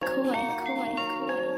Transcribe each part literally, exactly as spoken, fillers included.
Koi, Koi, Koi.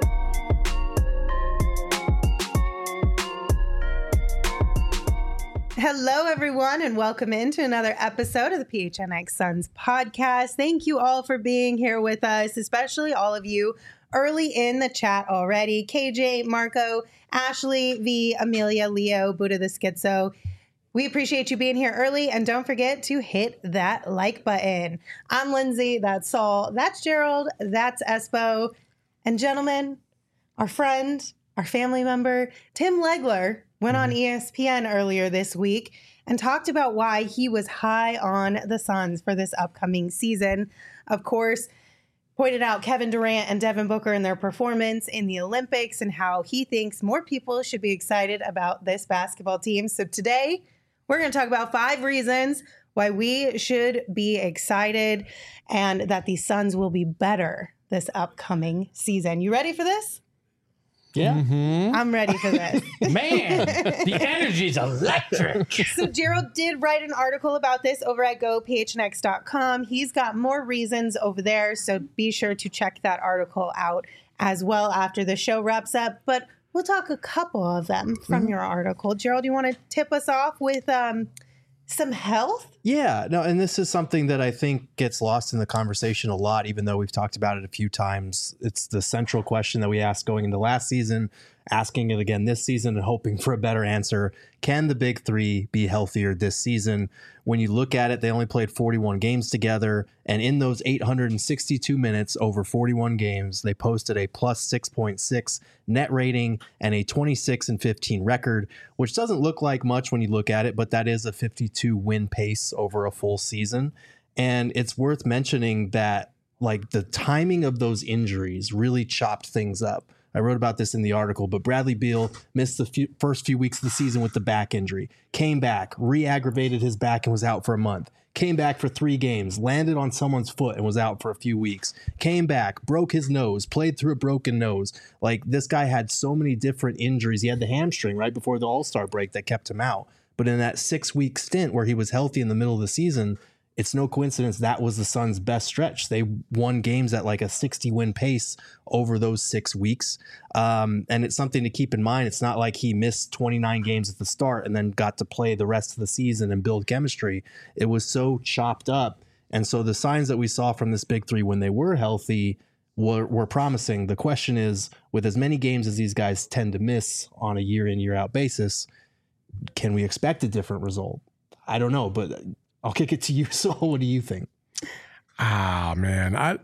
Hello, everyone, and welcome into another episode of the P H N X Suns podcast. Thank you all for being here with us, especially all of you early in the chat already. K J, Marco, Ashley, V, Amelia, Leo, Buddha the Schizo. We appreciate you being here early, and don't forget to hit that like button. I'm Lindsay, that's Saul, that's Gerald, that's Espo. And gentlemen, our friend, our family member, Tim Legler, went on E S P N earlier this week and talked about why he was high on the Suns for this upcoming season. Of course, pointed out Kevin Durant and Devin Booker and their performance in the Olympics and how he thinks more people should be excited about this basketball team. So today, we're going to talk about five reasons why we should be excited and that the Suns will be better this upcoming season. You ready for this? Yeah. Mm-hmm. I'm ready for this. Man, the energy's electric. So Gerald did write an article about this over at go p h n x dot com. He's got more reasons over there, so be sure to check that article out as well after the show wraps up. But we'll talk a couple of them from mm-hmm. your article. Gerald, you want to tip us off with um, some health? Yeah, no, and this is something that I think gets lost in the conversation a lot, even though we've talked about it a few times. It's the central question that we asked going into last season, asking it again this season and hoping for a better answer. Can the big three be healthier this season? When you look at it, they only played forty-one games together. And in those eight hundred sixty-two minutes over forty-one games, they posted a plus six point six net rating and a twenty-six and fifteen record, which doesn't look like much when you look at it, but that is a fifty-two win pace over a full season. And it's worth mentioning that like the timing of those injuries really chopped things up. I wrote about this in the article, but Bradley Beal missed the few, first few weeks of the season with the back injury, came back, re-aggravated his back and was out for a month, came back for three games, landed on someone's foot and was out for a few weeks, came back, broke his nose, played through a broken nose. Like this guy had so many different injuries. He had the hamstring right before the All-Star break that kept him out. But in that six-week stint where he was healthy in the middle of the season, it's no coincidence that was the Suns' best stretch. They won games at like a sixty-win pace over those six weeks. Um, and it's something to keep in mind. It's not like he missed twenty-nine games at the start and then got to play the rest of the season and build chemistry. It was so chopped up. And so the signs that we saw from this big three when they were healthy were, were promising. The question is, with as many games as these guys tend to miss on a year in, year out basis, can we expect a different result? I don't know, but I'll kick it to you, Saul. What do you think? Ah, man. I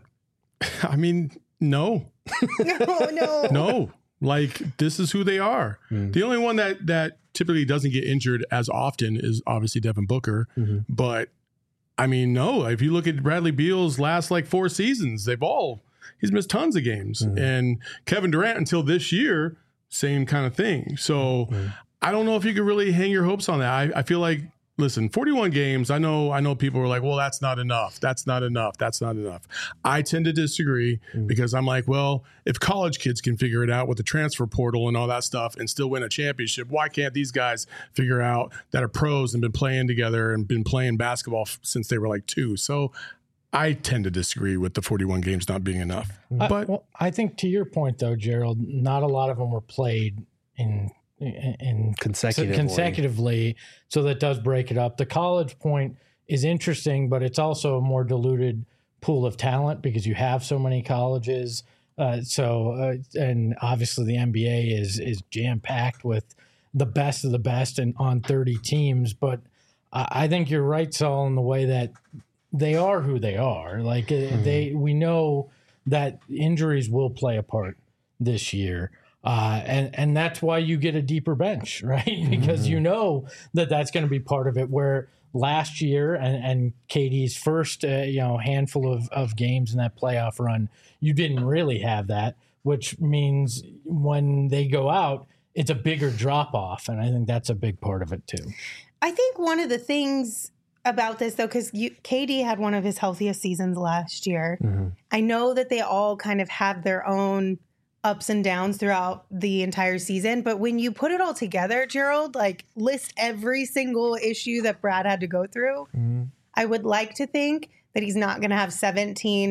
I mean, no. No, no. No. Like, this is who they are. Mm. The only one that that typically doesn't get injured as often is obviously Devin Booker. Mm-hmm. But, I mean, no. If you look at Bradley Beal's last, like, four seasons, they've all, he's missed tons of games. Mm-hmm. And Kevin Durant, until this year, same kind of thing. So, mm-hmm. I don't know if you could really hang your hopes on that. I, I feel like, listen, forty-one games, I know I know people are like, well, that's not enough. That's not enough. That's not enough. I tend to disagree mm. because I'm like, well, if college kids can figure it out with the transfer portal and all that stuff and still win a championship, why can't these guys figure out that are pros and been playing together and been playing basketball f- since they were like two? So I tend to disagree with the forty-one games not being enough. But I, well, I think to your point, though, Gerald, not a lot of them were played in – and consecutively. consecutively, so that does break it up. The college point is interesting, but it's also a more diluted pool of talent because you have so many colleges. Uh, so, uh, and obviously the N B A is is jam packed with the best of the best and on thirty teams. But I, I think you're right, Saul, in the way that they are who they are. Like mm-hmm. they, we know that injuries will play a part this year. Uh, and, and that's why you get a deeper bench, right? Because mm-hmm. you know that that's going to be part of it, where last year and, and K D's first, uh, you know, handful of, of games in that playoff run, you didn't really have that, which means when they go out, it's a bigger drop off. And I think that's a big part of it too. I think one of the things about this, though, because K D had one of his healthiest seasons last year. Mm-hmm. I know that they all kind of have their own ups and downs throughout the entire season. But when you put it all together, Gerald, like list every single issue that Brad had to go through, mm-hmm. I would like to think that he's not going to have seventeen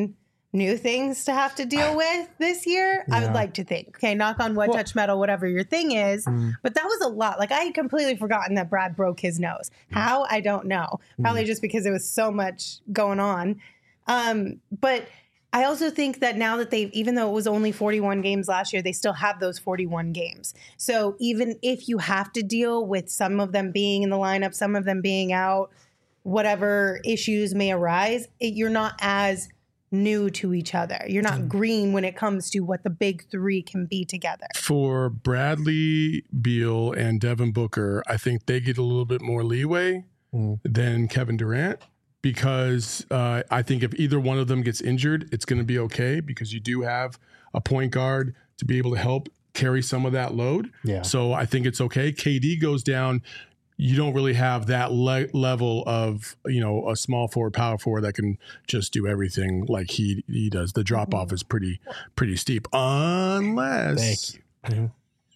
new things to have to deal with this year. I would Yeah. like to think. Okay, knock on wood, Well- touch metal, whatever your thing is. Mm. But that was a lot. Like I had completely forgotten that Brad broke his nose. How? I don't know. Probably just because there was so much going on. Um, but I also think that now that they've, even though it was only forty-one games last year, they still have those forty-one games. So even if you have to deal with some of them being in the lineup, some of them being out, whatever issues may arise, it, you're not as new to each other. You're not green when it comes to what the big three can be together. For Bradley Beal and Devin Booker, I think they get a little bit more leeway Mm. than Kevin Durant because uh, I think if either one of them gets injured, it's going to be okay because you do have a point guard to be able to help carry some of that load. Yeah. So I think it's okay. K D goes down. You don't really have that le- level of, you know, a small forward, power forward that can just do everything like he he does. The drop off is pretty pretty steep, unless Thank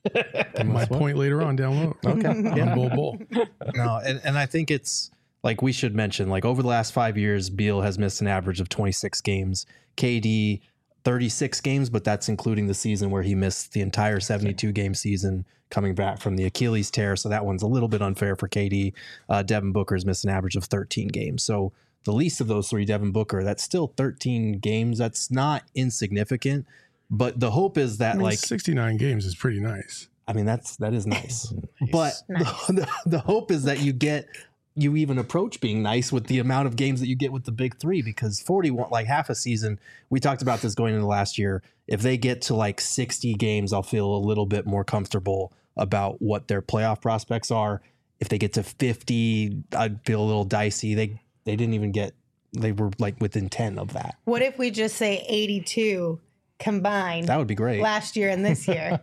my point later on down low. Okay. On Yeah. Bull Bull. No, and, and I think it's like we should mention, like over the last five years, Beal has missed an average of twenty-six games. K D, thirty-six games, but that's including the season where he missed the entire seventy-two game season coming back from the Achilles tear. So that one's a little bit unfair for K D. Uh, Devin Booker's missed an average of thirteen games. So the least of those three, Devin Booker, that's still thirteen games. That's not insignificant. But the hope is that I mean, like sixty-nine games is pretty nice. I mean, that's that is nice. But Nice. the, the, the hope is that you get you even approach being nice with the amount of games that you get with the big three, because forty-one, like half a season, we talked about this going into last year. If they get to like sixty games, I'll feel a little bit more comfortable about what their playoff prospects are. If they get to fifty, I'd feel a little dicey. They they didn't even get, they were like within ten of that. What if we just say eighty-two combined That would be great. last year and this year?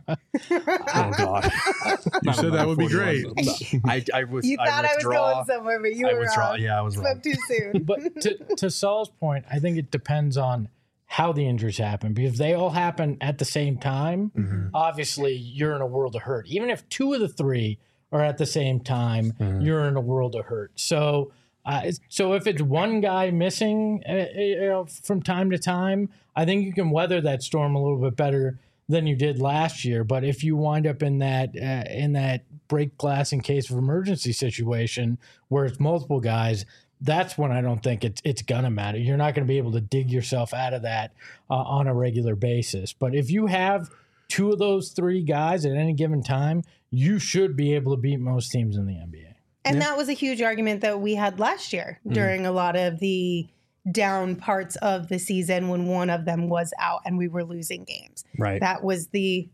Oh God. You said that would be great. I, I was, You thought I, was withdraw. going somewhere, but you I were withdraw. wrong. Yeah, I was wrong. Spoke too soon. But to, to Saul's point, I think it depends on how the injuries happen. Because if they all happen at the same time, Mm-hmm. obviously you're in a world of hurt. Even if two of the three are at the same time, Mm-hmm. you're in a world of hurt. So, uh, it's- so if it's one guy missing, uh, you know, from time to time, I think you can weather that storm a little bit better than you did last year. But if you wind up in that uh, in that break glass in case of emergency situation where it's multiple guys, that's when I don't think it's it's gonna matter. You're not going to be able to dig yourself out of that uh, on a regular basis. But if you have two of those three guys at any given time, you should be able to beat most teams in the N B A. And that was a huge argument that we had last year during a lot of the down parts of the season when one of them was out and we were losing games. Right. That was the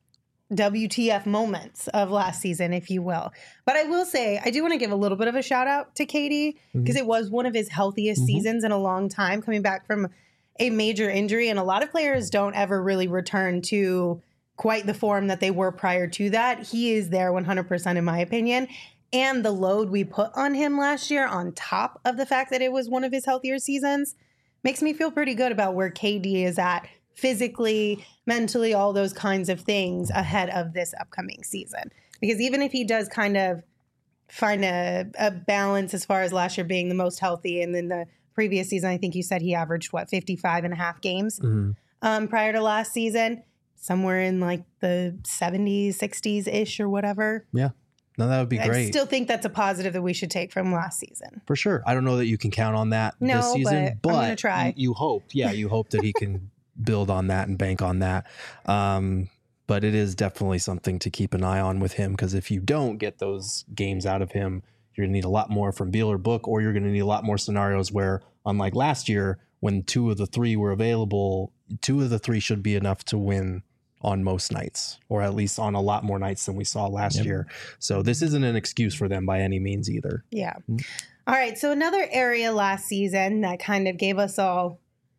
W T F moments of last season, if you will. But I will say, I do want to give a little bit of a shout out to K D because it was one of his healthiest seasons in a long time, coming back from a major injury. And a lot of players don't ever really return to quite the form that they were prior to that. He is there one hundred percent in my opinion. And the load we put on him last year, on top of the fact that it was one of his healthier seasons, makes me feel pretty good about where K D is at physically, mentally, all those kinds of things ahead of this upcoming season. Because even if he does kind of find a, a balance as far as last year being the most healthy, and then the previous season, I think you said he averaged, what, fifty-five and a half games um, prior to last season, somewhere in like the seventies, sixties-ish or whatever. Yeah. No, that would be I great. still think that's a positive that we should take from last season. For sure. I don't know that you can count on that No, this season, but but, I'm gonna try. You, you hope. Yeah, you hope that he can build on that and bank on that. Um, but it is definitely something to keep an eye on with him, because if you don't get those games out of him, you're going to need a lot more from Beal or Book, or you're going to need a lot more scenarios where, unlike last year, when two of the three were available, two of the three should be enough to win on most nights, or at least on a lot more nights than we saw last Yep. year. So this isn't an excuse for them by any means either. Yeah. All right. So another area last season that kind of gave us all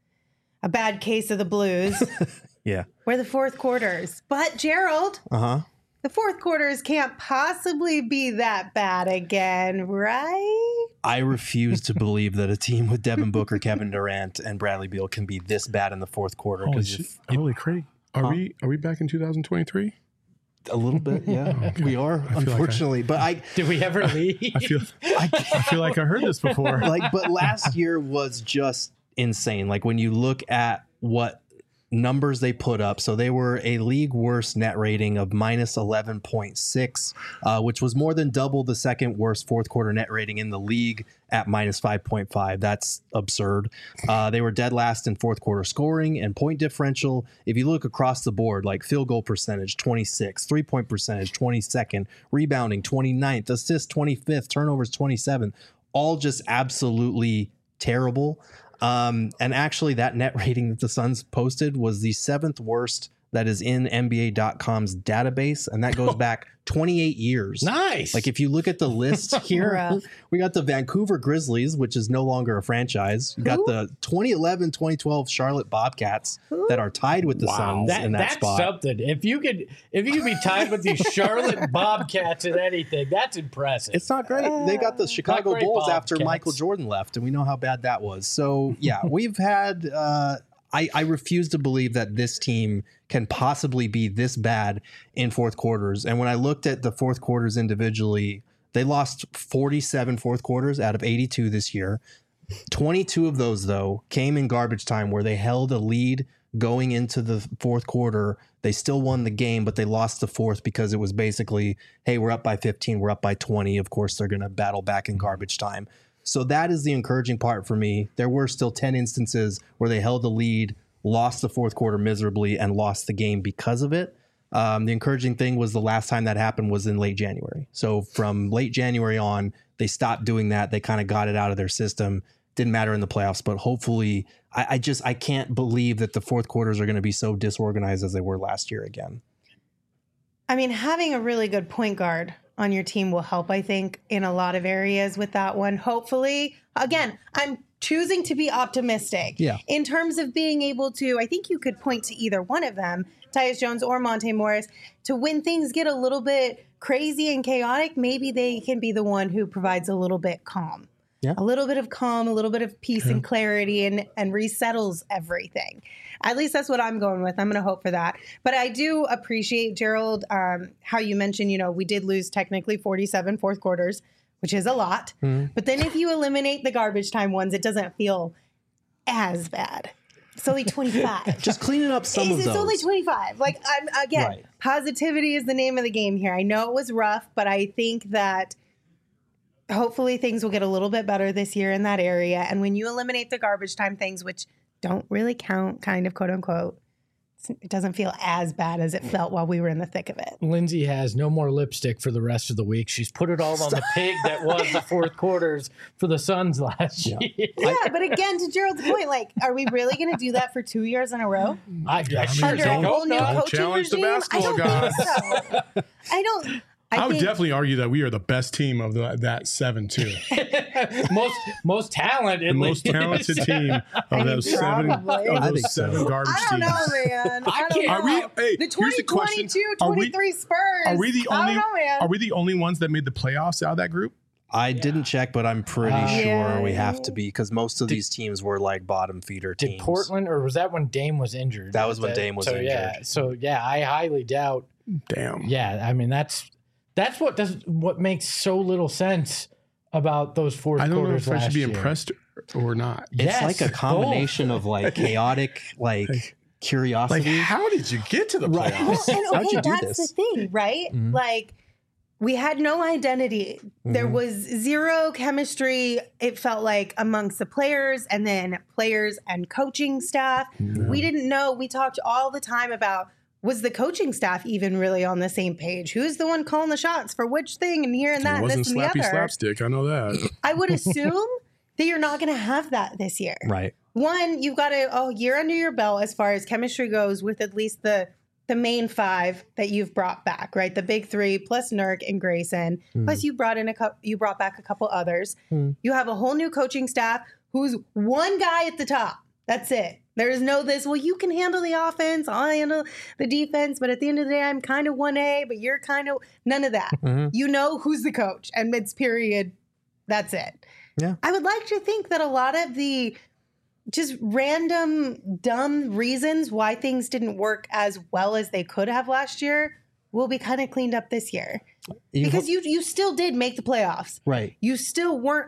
a bad case of the blues Yeah. were the fourth quarters. But Gerald, Uh-huh. the fourth quarters can't possibly be that bad again, right? I refuse to believe that a team with Devin Booker, Kevin Durant, and Bradley Beal can be this bad in the fourth quarter. Holy, Because shit. if, if Holy Craig. Are Huh? we are we back in two thousand twenty-three? a little bit, yeah, Okay. we are, I feel like I- unfortunately. But I, Did we ever leave? I feel I I feel like I heard this before. like, but last year was just insane. Like when you look at what numbers they put up. So they were a league worst net rating of minus eleven point six, uh, which was more than double the second worst fourth quarter net rating in the league at minus five point five. That's absurd. Uh, they were dead last in fourth quarter scoring and point differential. If you look across the board, like field goal percentage, twenty-six, three point percentage, twenty-second, rebounding, twenty-ninth, assists, twenty-fifth, turnovers, twenty-seventh, all just absolutely terrible. Um, and actually, that net rating that the Suns posted was the seventh worst that is in N B A dot com's database, and that goes back twenty-eight years. Nice. Like if you look at the list here, Rough. we got the Vancouver Grizzlies, which is no longer a franchise. We got Who? the twenty eleven twenty twelve Charlotte Bobcats Who? that are tied with the Wow. Suns That, in that that's spot. something. If you could, if you could be tied with the Charlotte Bobcats in anything, that's impressive. It's not great. They got the Chicago great Bulls after Bobcats. Michael Jordan left, and we know how bad that was. So, yeah, we've had. Uh, I, I refuse to believe that this team can possibly be this bad in fourth quarters. And when I looked at the fourth quarters individually, they lost forty-seven fourth quarters out of eighty-two this year. twenty-two of those, though, came in garbage time where they held a lead going into the fourth quarter. They still won the game, but they lost the fourth because it was basically, hey, we're up by fifteen, we're up by twenty. Of course, they're going to battle back in garbage time. So that is the encouraging part for me. There were still ten instances where they held the lead, lost the fourth quarter miserably, and lost the game because of it. Um, the encouraging thing was the last time that happened was in late January. So from late January on, they stopped doing that. They kind of got it out of their system. Didn't matter in the playoffs, but hopefully, I, I just I can't believe that the fourth quarters are going to be so disorganized as they were last year again. I mean, having a really good point guard on your team will help, I think, in a lot of areas with that one. Hopefully, again, I'm choosing to be optimistic. Yeah. In terms of being able to, I think you could point to either one of them, Tyus Jones or Monte Morris, to when things get a little bit crazy and chaotic, maybe they can be the one who provides a little bit calm. Yeah. A little bit of calm, a little bit of peace and clarity, and, and resettles everything. At least that's what I'm going with. I'm going to hope for that. But I do appreciate, Gerald, um, how you mentioned, you know, we did lose technically forty-seven fourth quarters, which is a lot. Mm-hmm. But then if you eliminate the garbage time ones, it doesn't feel as bad. It's only twenty-five. Just cleaning up some it's, of it's those. only twenty-five. Like, I'm, again, Right. Positivity is the name of the game here. I know it was rough, but I think that hopefully things will get a little bit better this year in that area. And when you eliminate the garbage time things, which don't really count, kind of, quote unquote, it doesn't feel as bad as it felt while we were in the thick of it. Lindsay has no more lipstick for the rest of the week. She's put it all on the pig that was the fourth quarters for the Suns last Yeah. year. Yeah, but again, to Gerald's point, like, are we really going to do that for two years in a row? I, I I sure mean, Under a don't whole new know. Don't coaching challenge the regime? basketball I don't think so. I don't. I, I would think, definitely argue that we are the best team of the, that seven too. most most talented, The most talented team of I mean, those seven probably. of I those think so. seven garbage I don't teams. know, man. I, I don't can't- know. Are we? Hey, the here's the question: twenty twenty-two Are we? twenty-three Spurs. Are we the I only? don't know, man. Are we the only ones that made the playoffs out of that group? I didn't check, but I'm pretty Uh, sure Yeah. we have to be because most of these teams were like bottom feeder Did teams. Portland, or was that when Dame was injured? That was when Dame was so, Yeah, injured. so yeah, I highly doubt. Damn. Yeah, I mean that's that's what does what makes so little sense about those fourth I don't know quarters if I last should be year. impressed or not. It's Yes, like a both. combination of like chaotic, like Like, curiosity. how did you get to the Right. playoffs? Well, and How'd okay, you do that's this? the thing, right? Mhm. Like, we had no identity. There Mhm. was zero chemistry, it felt like, amongst the players and then players and coaching staff. We didn't know. We talked all the time about, was the coaching staff even really on the same page? Who's the one calling the shots for which thing and here and that It and wasn't this and the slappy other? slapstick. I know that. I would assume that you're not going to have that this year. Right. One, you've got a oh, year under your belt as far as chemistry goes with at least the the main five that you've brought back, right? The big three plus Nurk and Grayson. Mm. Plus you brought in a couple, you brought back a couple others. Mm. You have a whole new coaching staff who's one guy at the top. That's it. There is no this, well, you can handle the offense, I'll handle the defense, but at the end of the day, I'm kind of one A, but you're kind of none of that. Mhm. You know who's the coach, and it's period. That's it. Yeah. I would like to think that a lot of the just random, dumb reasons why things didn't work as well as they could have last year will be kind of cleaned up this year. You Because hope- you you still did make the playoffs. right. You still weren't a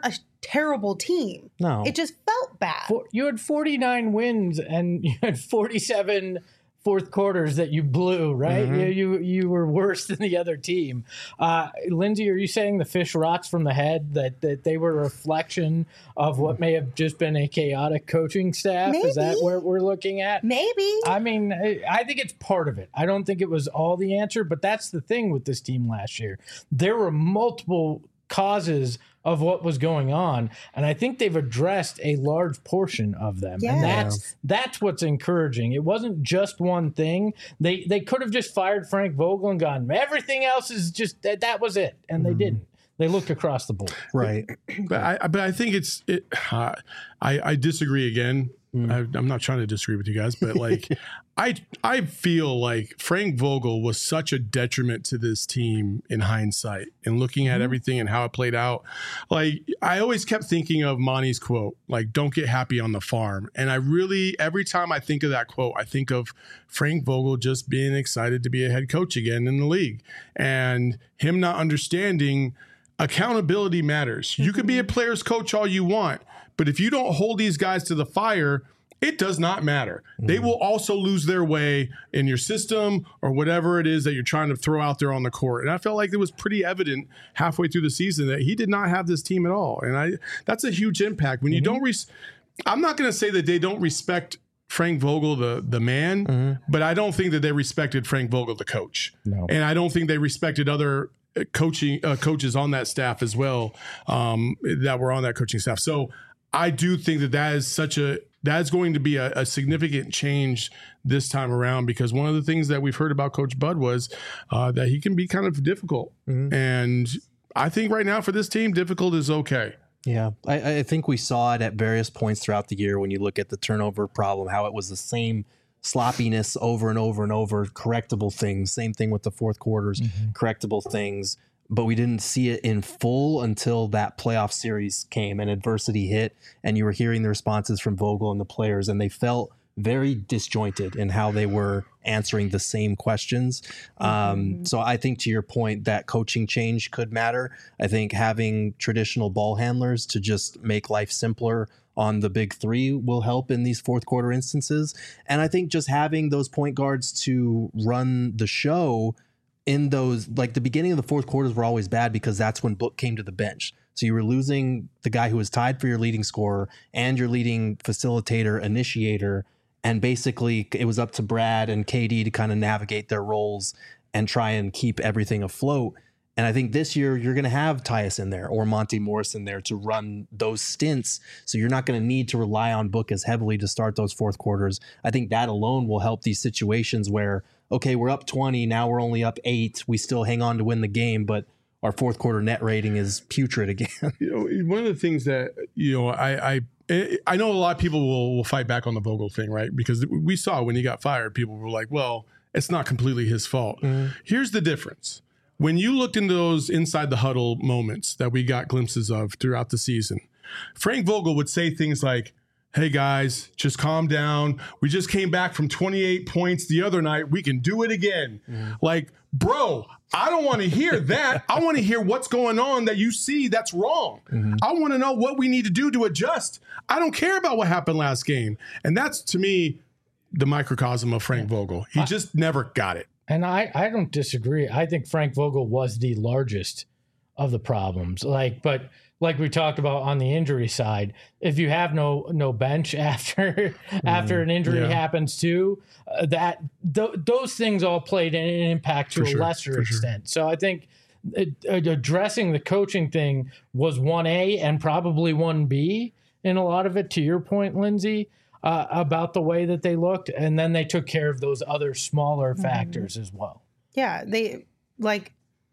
terrible team. No. It just felt bad. For, you had forty-nine wins and you had forty-seven fourth quarters that you blew, right? Mm-hmm. You, you you were worse than the other team. Uh, Lindsay, are you saying the fish rots from the head, that, that they were a reflection of what may have just been a chaotic coaching staff? Maybe. Is that what we're looking at? Maybe. I mean, I I think it's part of it. I don't think it was all the answer, but that's the thing with this team last year. There were multiple causes of what was going on, and I think they've addressed a large portion of them. Yeah. And that's that's what's encouraging. It wasn't just one thing. They they could have just fired Frank Vogel and gone, everything else is just that, that was it, and they didn't. They looked across the board. Right. But I, but I think it's, it, uh, I, I disagree again. Mm. I, I'm not trying to disagree with you guys, but like, I, I feel like Frank Vogel was such a detriment to this team in hindsight and looking at Mm. everything and how it played out. Like, I always kept thinking of Monty's quote, like, don't get happy on the farm. And I really, every time I think of that quote, I think of Frank Vogel just being excited to be a head coach again in the league and him not understanding accountability matters. You can be a player's coach all you want, but if you don't hold these guys to the fire, it does not matter. Mm. They will also lose their way in your system or whatever it is that you're trying to throw out there on the court. And I felt like it was pretty evident halfway through the season that he did not have this team at all. And I that's a huge impact. When you mm-hmm. don't res- I'm not going to say that they don't respect Frank Vogel, the the man, mm-hmm. but I don't think that they respected Frank Vogel, the coach. No. And I don't think they respected other coaching uh, coaches on that staff as well um, that were on that coaching staff. So I do think that that is such a that is going to be a, a significant change this time around, because one of the things that we've heard about Coach Bud was uh, that he can be kind of difficult. Mm-hmm. And I think right now for this team, difficult is okay. Yeah, I, I think we saw it at various points throughout the year when you look at the turnover problem, how it was the same sloppiness over and over and over, correctable things. Same thing with the fourth quarters, mm-hmm. correctable things. But we didn't see it in full until that playoff series came and adversity hit, and you were hearing the responses from Vogel and the players, and they felt very disjointed in how they were answering the same questions. Um, mm-hmm. So I think, to your point, that coaching change could matter. I think having traditional ball handlers to just make life simpler on the big three will help in these fourth quarter instances. And I think just having those point guards to run the show in those, like the beginning of the fourth quarters were always bad because that's when Book came to the bench. So you were losing the guy who was tied for your leading scorer and your leading facilitator, initiator. And basically it was up to Brad and K D to kind of navigate their roles and try and keep everything afloat. And I think this year you're going to have Tyus in there or Monty Morris in there to run those stints. So you're not going to need to rely on Book as heavily to start those fourth quarters. I think that alone will help these situations where, okay, we're up twenty, now we're only up eight. We still hang on to win the game, but our fourth quarter net rating is putrid again. You know, one of the things that, you know, I, I, I know a lot of people will, will fight back on the Vogel thing, right? Because we saw when he got fired, people were like, well, it's not completely his fault. Mm-hmm. Here's the difference. When you looked into those inside the huddle moments that we got glimpses of throughout the season, Frank Vogel would say things like, hey guys, just calm down. We just came back from twenty-eight points the other night. We can do it again. Mm-hmm. Like, bro, I don't want to hear that. I want to hear what's going on that you see that's wrong. Mm-hmm. I want to know what we need to do to adjust. I don't care about what happened last game. And that's, to me, the microcosm of Frank Vogel. He just never got it. And I, I don't disagree. I think Frank Vogel was the largest of the problems. Like, but like we talked about on the injury side, if you have no no bench after mm, after an injury yeah. happens too, uh, that th- those things all played an impact to For a sure. lesser extent. Sure. So I think it, uh, addressing the coaching thing was one A and probably one B in a lot of it. To your point, Lindsay. Uh, about the way that they looked, and then they took care of those other smaller factors mm-hmm. as well. Yeah, they like.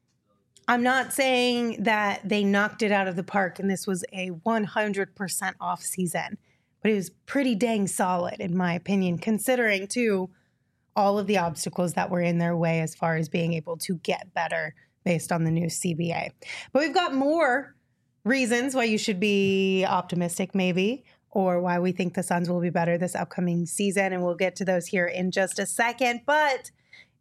I'm not saying that they knocked it out of the park and this was a one hundred percent off season, but it was pretty dang solid in my opinion, considering too all of the obstacles that were in their way as far as being able to get better based on the new C B A. But we've got more reasons why you should be optimistic, maybe, or why we think the Suns will be better this upcoming season. And we'll get to those here in just a second. But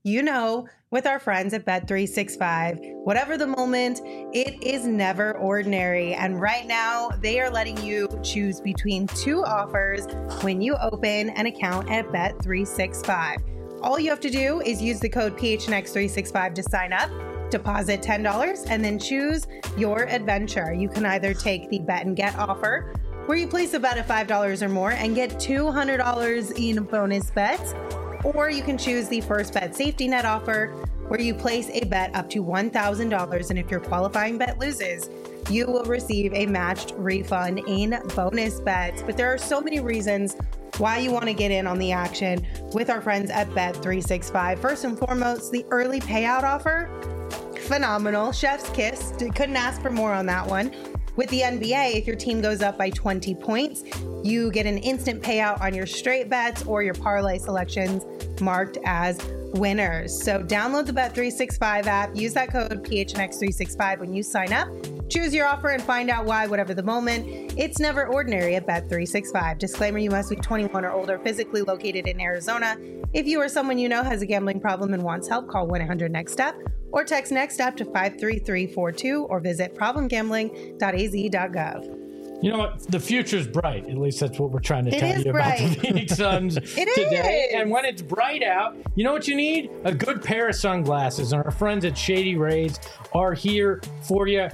You know, with our friends at Bet three sixty-five, whatever the moment, it is never ordinary. And right now, they are letting you choose between two offers when you open an account at Bet three sixty-five. All you have to do is use the code P H N X three sixty-five to sign up, deposit ten dollars, and then choose your adventure. You can either take the Bet and Get offer, where you place a bet of five dollars or more and get two hundred dollars in bonus bets, or you can choose the First Bet Safety Net offer, where you place a bet up to one thousand dollars, and if your qualifying bet loses, you will receive a matched refund in bonus bets. But there are so many reasons why you want to get in on the action with our friends at Bet three sixty-five. First and foremost, the early payout offer, phenomenal. Chef's kiss. Couldn't ask for more on that one. With the N B A, if your team goes up by twenty points, you get an instant payout on your straight bets or your parlay selections marked as winners. So download the Bet three sixty-five app, use that code P H N X three sixty-five when you sign up, choose your offer, and find out why, whatever the moment. It's never ordinary at Bet three sixty-five. Disclaimer, you must be twenty-one or older, physically located in Arizona. If you or someone you know has a gambling problem and wants help, call one eight hundred next step or text NEXTSTEP to five three three four two or visit problem gambling dot a z dot gov. You know what? The future's bright. At least that's what we're trying to It tell is you about bright. the Phoenix Suns today. is. And when it's bright out, you know what you need? A good pair of sunglasses. And our friends at Shady Rays are here for you.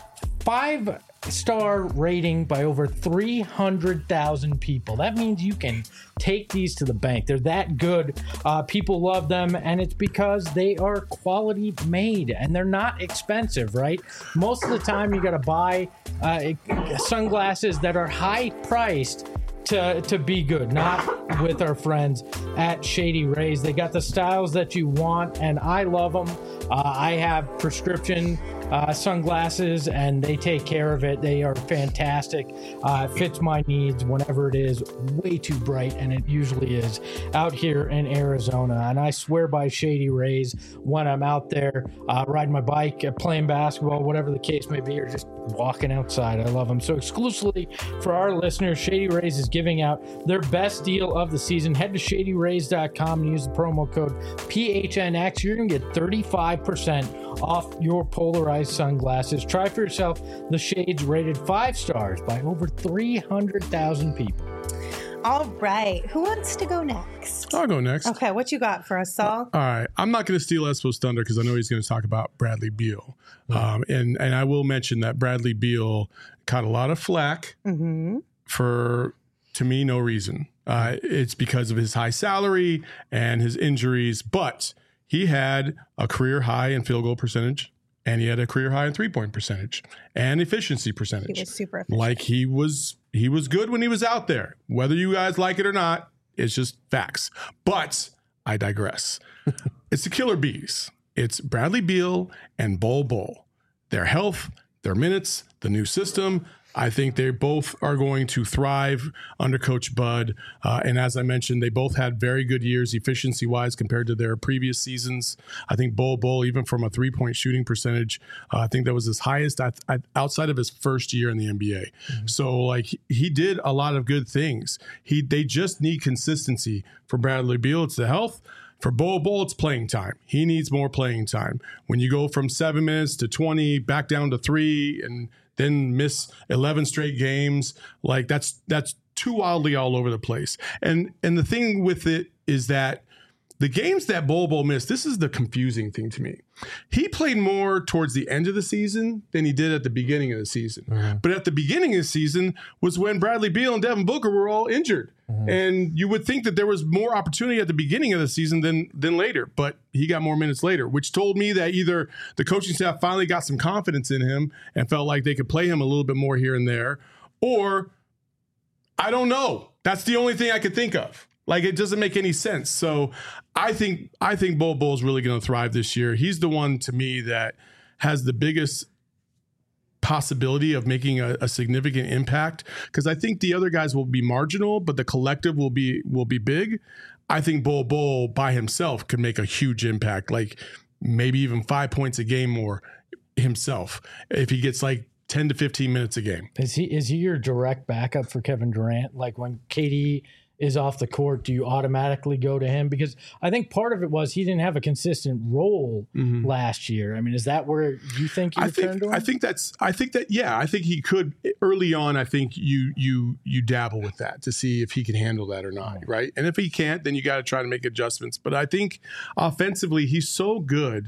Five star rating by over three hundred thousand people. That means you can take these to the bank. They're that good. Uh, people love them, and it's because they are quality made and they're not expensive, right? Most of the time you got to buy uh, sunglasses that are high priced to to be good, not with our friends at Shady Rays. They got the styles that you want, and I love them. Uh, I have prescription uh, sunglasses, and they take care of it. They are fantastic. Uh, it fits my needs whenever it is way too bright, and it usually is out here in Arizona. And I swear by Shady Rays when I'm out there uh, riding my bike, uh, playing basketball, whatever the case may be, or just walking outside. I love them. So exclusively for our listeners, Shady Rays is giving out their best deal of the season. Head to shady rays dot com and use the promo code P H N X. You're going to get thirty-five percent off your polarized sunglasses. Try for yourself the shades rated five stars by over three hundred thousand people. All right. Who wants to go next? I'll go next. Okay, what you got for us, Saul? All right. I'm not going to steal Espo's thunder because I know he's going to talk about Bradley Beal. Um, and, and I will mention that Bradley Beal caught a lot of flack Mm-hmm. for, to me, no reason. Uh, it's because of his high salary and his injuries, but he had a career high in field goal percentage, and he had a career high in three-point percentage and efficiency percentage. He was super efficient. Like he was, he was good when he was out there. Whether you guys like it or not, it's just facts. But I digress. It's the killer bees. It's Bradley Beal and Bol Bol. Their health, their minutes, the new system. I think they both are going to thrive under Coach Bud. Uh, and as I mentioned, they both had very good years efficiency-wise compared to their previous seasons. I think Bol Bol, even from a three-point shooting percentage, uh, I think that was his highest at, at, outside of his first year in the N B A. Mm-hmm. So, like, he, he did a lot of good things. He They just need consistency. For Bradley Beal, it's the health. For Bol Bol, it's playing time. He needs more playing time. When you go from seven minutes to twenty, back down to three, and then miss eleven straight games, like that's that's too wildly all over the place. And and the thing with it is that the games that Bol Bol missed, this is the confusing thing to me. He played more towards the end of the season than he did at the beginning of the season. Mm-hmm. But at the beginning of the season was when Bradley Beal and Devin Booker were all injured. Mm-hmm. And you would think that there was more opportunity at the beginning of the season than than later, but he got more minutes later, which told me that either the coaching staff finally got some confidence in him and felt like they could play him a little bit more here and there, or I don't know. That's the only thing I could think of. Like, it doesn't make any sense. So I think I think Bol Bol's really going to thrive this year. He's the one, to me, that has the biggest possibility of making a, a significant impact, because I think the other guys will be marginal, but the collective will be will be big. I think Bol Bol by himself could make a huge impact, like maybe even five points a game more himself if he gets like ten to fifteen minutes a game. Is he is he your direct backup for Kevin Durant? Like when K D is off the court, do you automatically go to him? Because I think part of it was he didn't have a consistent role mm-hmm. last year. I mean, is that where you think you I return think, to him? I think that's, I think that, yeah, I think he could early on. I think you, you, you dabble with that to see if he can handle that or not. Oh. Right. And if he can't, then you got to try to make adjustments. But I think offensively, he's so good.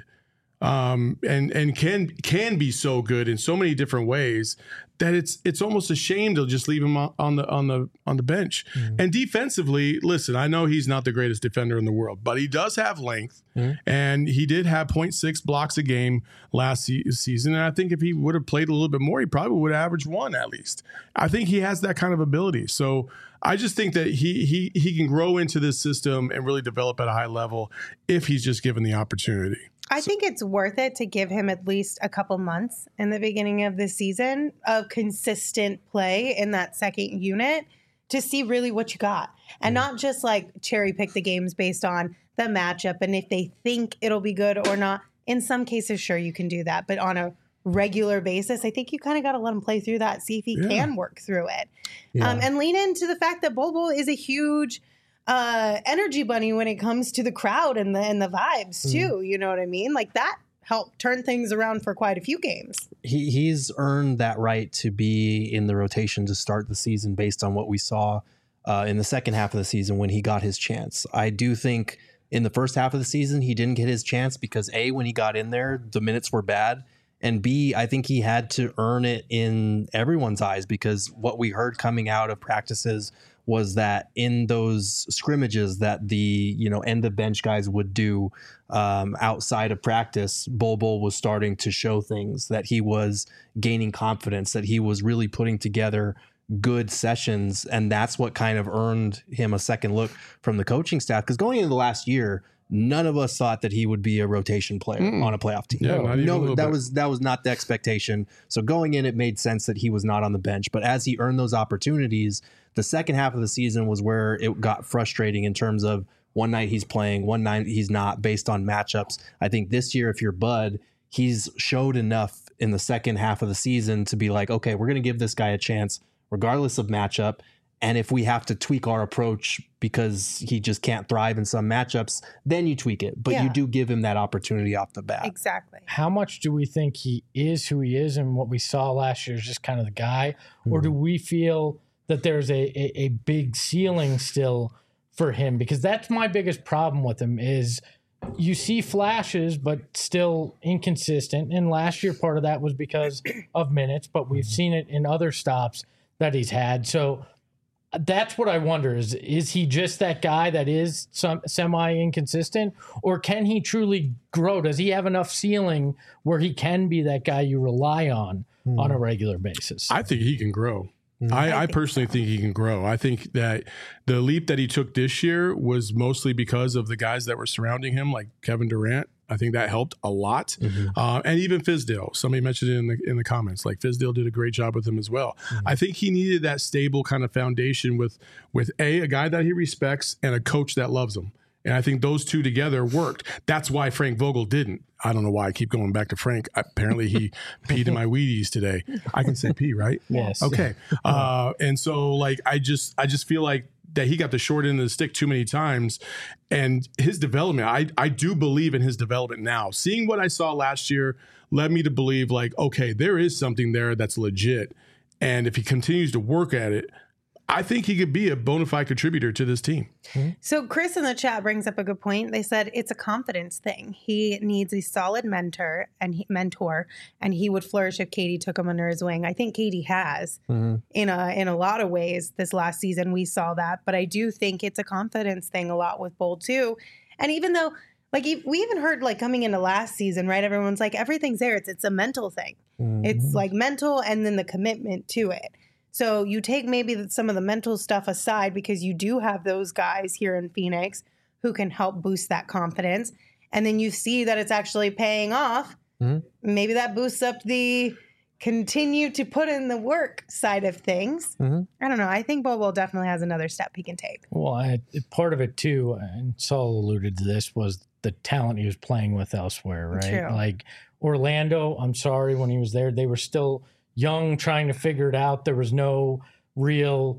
Um, and and can can be so good in so many different ways that it's it's almost a shame to just leave him on the on the on the bench. Mm-hmm. And defensively, listen, I know he's not the greatest defender in the world, but he does have length, mm-hmm. and he did have point six blocks a game last se- season. And I think if he would have played a little bit more, he probably would have averaged one at least. I think he has that kind of ability. So I just think that he he he can grow into this system and really develop at a high level if he's just given the opportunity. I think it's worth it to give him at least a couple months in the beginning of the season of consistent play in that second unit to see really what you got. And mm. not just like cherry pick the games based on the matchup and if they think it'll be good or not. In some cases, sure, you can do that. But on a regular basis, I think you kind of got to let him play through that, see if he yeah. can work through it. Yeah. Um, and lean into the fact that Bol Bol is a huge uh, energy bunny when it comes to the crowd and the and the vibes too. Mm. You know what I mean? Like that helped turn things around for quite a few games. He he's earned that right to be in the rotation to start the season based on what we saw uh, in the second half of the season when he got his chance. I do think in the first half of the season he didn't get his chance because A, when he got in there, the minutes were bad. And B, I think he had to earn it in everyone's eyes because what we heard coming out of practices was that in those scrimmages that the, you know, end of bench guys would do um, outside of practice, Bol Bol was starting to show things, that he was gaining confidence, that he was really putting together good sessions. And that's what kind of earned him a second look from the coaching staff. Because going into the last year, none of us thought that he would be a rotation player mm. on a playoff team. Yeah, not even no, a little that bit. was that was not the expectation. So going in, it made sense that he was not on the bench. But as he earned those opportunities, the second half of the season was where it got frustrating in terms of one night he's playing, one night he's not, based on matchups. I think this year, if you're Bud, he's showed enough in the second half of the season to be like, okay, we're going to give this guy a chance regardless of matchup. And if we have to tweak our approach because he just can't thrive in some matchups, then you tweak it. But yeah. you do give him that opportunity off the bat. Exactly. How much do we think he is who he is and what we saw last year is just kind of the guy? Mm-hmm. Or do we feel that there's a, a, a big ceiling still for him? Because that's my biggest problem with him is you see flashes, but still inconsistent. And last year, part of that was because of minutes, but we've seen it in other stops that he's had. So that's what I wonder is, is he just that guy that is some semi-inconsistent, or can he truly grow? Does he have enough ceiling where he can be that guy you rely on mm. on a regular basis? I think he can grow. Mm. I, I, I personally think he can grow. I think that the leap that he took this year was mostly because of the guys that were surrounding him, like Kevin Durant. I think that helped a lot. Mm-hmm. Uh, and even Fizdale. Somebody mentioned it in the in the comments. Like Fizdale did a great job with him as well. Mm-hmm. I think he needed that stable kind of foundation with, with A, a guy that he respects and a coach that loves him. And I think those two together worked. That's why Frank Vogel didn't. I don't know why I keep going back to Frank. Apparently he peed in my Wheaties today. I can say pee, right? Yes. Okay. Uh, and so like, I just, I just feel like that he got the short end of the stick too many times, and his development, I, I do believe in his development now. Seeing what I saw last year led me to believe like, okay, there is something there that's legit. And if he continues to work at it, I think he could be a bona fide contributor to this team. So Chris in the chat brings up a good point. They said it's a confidence thing. He needs a solid mentor and he, mentor, and he would flourish if K D took him under his wing. I think K D has mm-hmm. in a in a lot of ways this last season. We saw that, but I do think it's a confidence thing a lot with Bol too. And even though, like, we even heard like coming into last season, right? Everyone's like, everything's there. It's it's a mental thing. Mm-hmm. It's like mental, and then the commitment to it. So you take maybe some of the mental stuff aside because you do have those guys here in Phoenix who can help boost that confidence. And then you see that it's actually paying off. Mm-hmm. Maybe that boosts up the continue to put in the work side of things. Mm-hmm. I don't know. I think Bol Bol definitely has another step he can take. Well, I, part of it too, and Saul alluded to this, was the talent he was playing with elsewhere, right? True. Like Orlando, I'm sorry, when he was there, they were still young, trying to figure it out. There was no real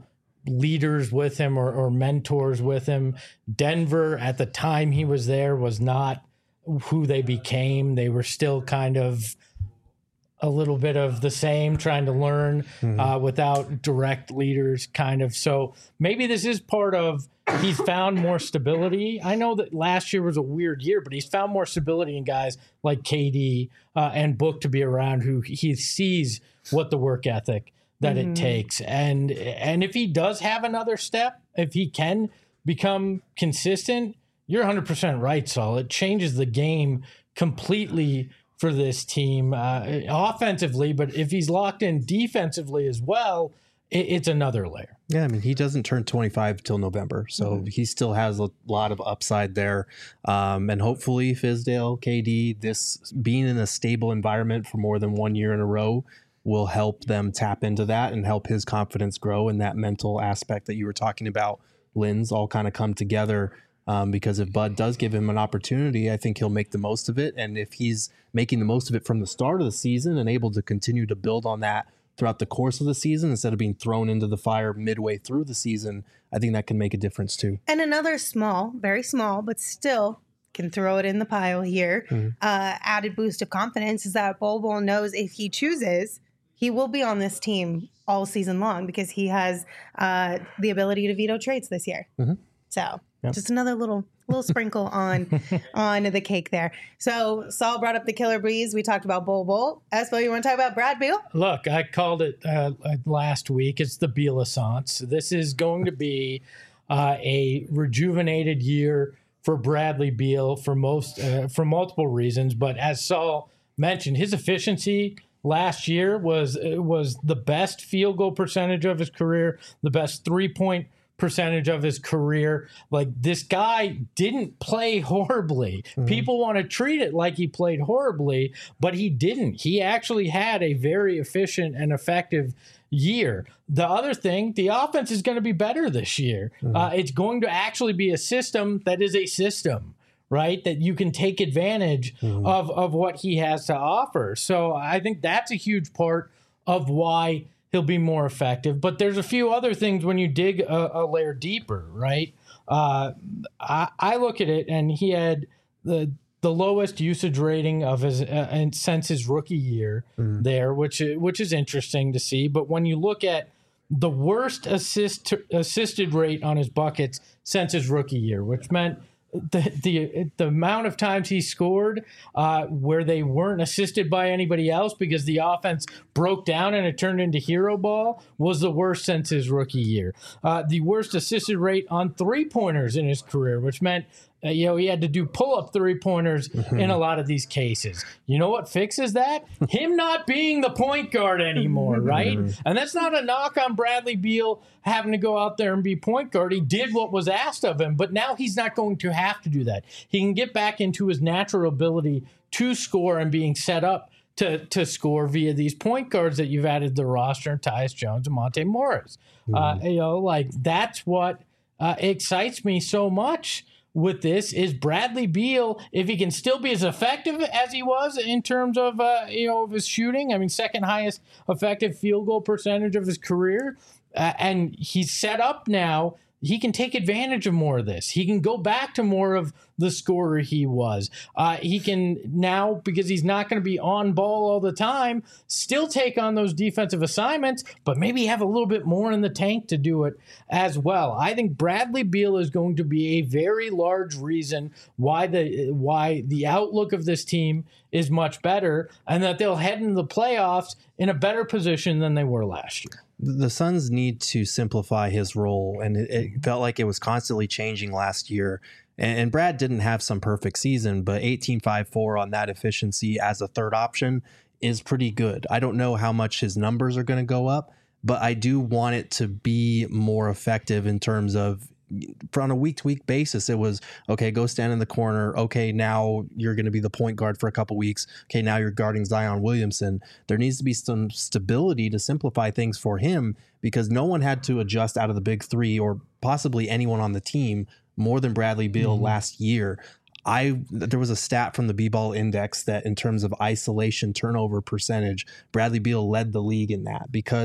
leaders with him or, or mentors with him. Denver at the time he was there was not who they became. They were still kind of a little bit of the same, trying to learn mm-hmm. uh, without direct leaders kind of. So maybe this is part of, he's found more stability. I know that last year was a weird year, but he's found more stability in guys like K D uh, and Book to be around, who he sees what the work ethic that mm-hmm. it takes. And, and if he does have another step, if he can become consistent, you're one hundred percent right, Saul. It changes the game completely for this team uh, offensively, but if he's locked in defensively as well, it, it's another layer. Yeah, I mean, he doesn't turn twenty-five till November, so mm-hmm. he still has a lot of upside there. Um, and hopefully Fizdale, K D, this being in a stable environment for more than one year in a row will help them tap into that and help his confidence grow, and that mental aspect that you were talking about, Linz, all kind of come together. Um, because if Bud does give him an opportunity, I think he'll make the most of it. And if he's making the most of it from the start of the season and able to continue to build on that throughout the course of the season, instead of being thrown into the fire midway through the season, I think that can make a difference too. And another small, very small, but still can throw it in the pile here, mm-hmm. uh, added boost of confidence is that Bol Bol knows if he chooses, he will be on this team all season long because he has uh, the ability to veto trades this year. Mm-hmm. So... Yep. Just another little little sprinkle on on the cake there. So Saul brought up the killer breeze. We talked about Bol Bol. Espo, you want to talk about Brad Beal? Look, I called it uh, last week. It's the Beal-assance. This is going to be uh, a rejuvenated year for Bradley Beal for most uh, for multiple reasons. But as Saul mentioned, his efficiency last year was was the best field goal percentage of his career, the best three point percentage of his career. Like, this guy didn't play horribly. Mm-hmm. People want to treat it like he played horribly, but he didn't. He actually had a very efficient and effective year. The other thing, the offense is going to be better this year. Mm-hmm. Uh, it's going to actually be a system that is a system, right? That you can take advantage mm-hmm. of, of what he has to offer. So I think that's a huge part of why he'll be more effective. But there's a few other things when you dig a, a layer deeper, right? Uh, I, I look at it, and he had the the lowest usage rating of his uh, and since his rookie year mm. there, which which is interesting to see. But when you look at the worst assist assisted rate on his buckets since his rookie year, which meant the the the amount of times he scored uh, where they weren't assisted by anybody else because the offense broke down and it turned into hero ball, was the worst since his rookie year. Uh, the worst assisted rate on three-pointers in his career, which meant Uh, you know, he had to do pull-up three-pointers mm-hmm. in a lot of these cases. You know what fixes that? Him not being the point guard anymore, right? Mm-hmm. And that's not a knock on Bradley Beal having to go out there and be point guard. He did what was asked of him, but now he's not going to have to do that. He can get back into his natural ability to score and being set up to to score via these point guards that you've added to the roster, Tyus Jones and Monte Morris. Mm-hmm. Uh, you know, like, that's what uh, excites me so much with this is Bradley Beal, if he can still be as effective as he was in terms of uh, you know of his shooting. I mean, second highest effective field goal percentage of his career, uh, and he's set up now. He can take advantage of more of this. He can go back to more of the scorer he was. Uh, he can now, because he's not going to be on ball all the time, still take on those defensive assignments, but maybe have a little bit more in the tank to do it as well. I think Bradley Beal is going to be a very large reason why the why the outlook of this team is much better, and that they'll head into the playoffs in a better position than they were last year. The Suns need to simplify his role, and it, it felt like it was constantly changing last year. And, and Brad didn't have some perfect season, but eighteen five four on that efficiency as a third option is pretty good. I don't know how much his numbers are going to go up, but I do want it to be more effective in terms of, on a week-to-week basis, it was, okay, go stand in the corner. Okay, now you're going to be the point guard for a couple weeks. Okay, now you're guarding Zion Williamson. There needs to be some stability to simplify things for him, because no one had to adjust out of the big three, or possibly anyone on the team, more than Bradley Beal mm-hmm. last year. I there was a stat from the B-Ball Index that in terms of isolation turnover percentage, Bradley Beal led the league in that, because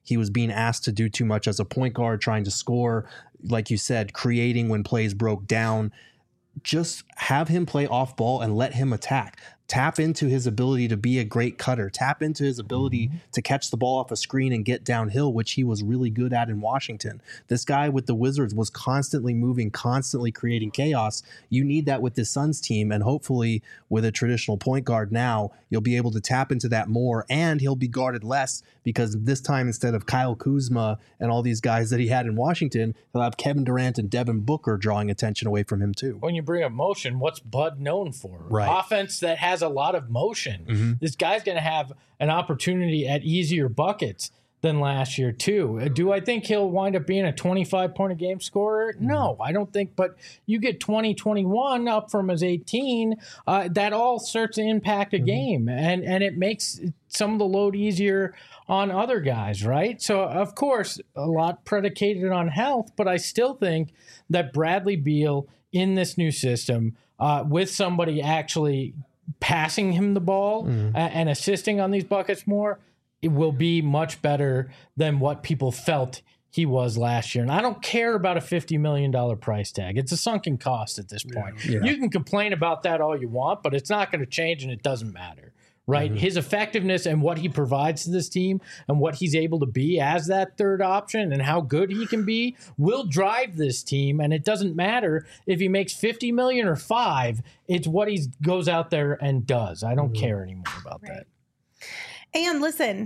He was being asked to do too much as a point guard, trying to score, like you said, creating when plays broke down. Just have him play off ball and let him attack. Tap into his ability to be a great cutter. Tap into his ability mm-hmm. to catch the ball off a screen and get downhill, which he was really good at in Washington. This guy with the Wizards was constantly moving, constantly creating chaos. You need that with this Suns team, and hopefully with a traditional point guard now, you'll be able to tap into that more, and he'll be guarded less because this time instead of Kyle Kuzma and all these guys that he had in Washington, he'll have Kevin Durant and Devin Booker drawing attention away from him too. When you bring up motion, what's Bud known for? Right. Offense that has a lot of motion. Mm-hmm. This guy's going to have an opportunity at easier buckets than last year too. Do I think he'll wind up being a twenty-five point a game scorer? No, I don't think, but you get twenty, twenty-one up from his eighteen, uh, that all starts to impact a mm-hmm. game, and, and it makes some of the load easier on other guys, right? So, of course, a lot predicated on health, but I still think that Bradley Beal in this new system, uh, with somebody actually passing him the ball mm. and assisting on these buckets more, it will be much better than what people felt he was last year. And I don't care about a fifty million dollars price tag. It's a sunken cost at this point. Yeah. You can complain about that all you want, but it's not going to change, and it doesn't matter. Right. Mm-hmm. His effectiveness and what he provides to this team and what he's able to be as that third option and how good he can be will drive this team. And it doesn't matter if he makes fifty million or five. It's what he goes out there and does. I don't mm-hmm. care anymore about right. that. And listen,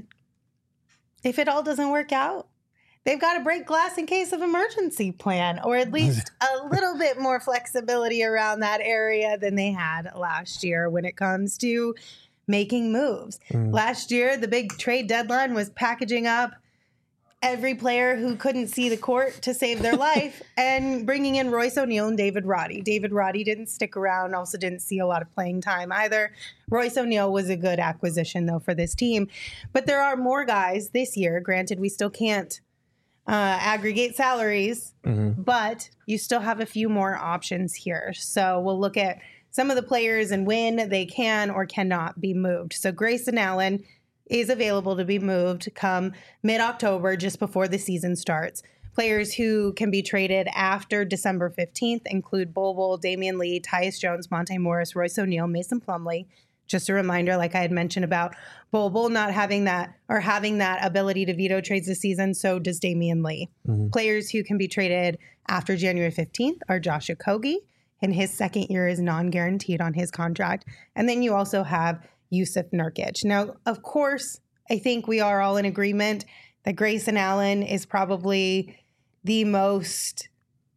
if it all doesn't work out, they've got a break glass in case of emergency plan, or at least a little bit more flexibility around that area than they had last year when it comes to making moves. Mm. Last year, the big trade deadline was packaging up every player who couldn't see the court to save their life and bringing in Royce O'Neal and David Roddy. David Roddy didn't stick around, also didn't see a lot of playing time either. Royce O'Neal was a good acquisition, though, for this team. But there are more guys this year. Granted, we still can't uh, aggregate salaries, mm-hmm. but you still have a few more options here. So we'll look at some of the players and when they can or cannot be moved. So Grayson Allen is available to be moved come mid-October, just before the season starts. Players who can be traded after December fifteenth include Bol Bol, Damian Lee, Tyus Jones, Monte Morris, Royce O'Neal, Mason Plumlee. Just a reminder, like I had mentioned about Bol Bol not having that or having that ability to veto trades this season, so does Damian Lee. Mm-hmm. Players who can be traded after January fifteenth are Josh Okogie, and his second year is non-guaranteed on his contract. And then you also have Yusuf Nurkic. Now, of course, I think we are all in agreement that Grayson Allen is probably the most,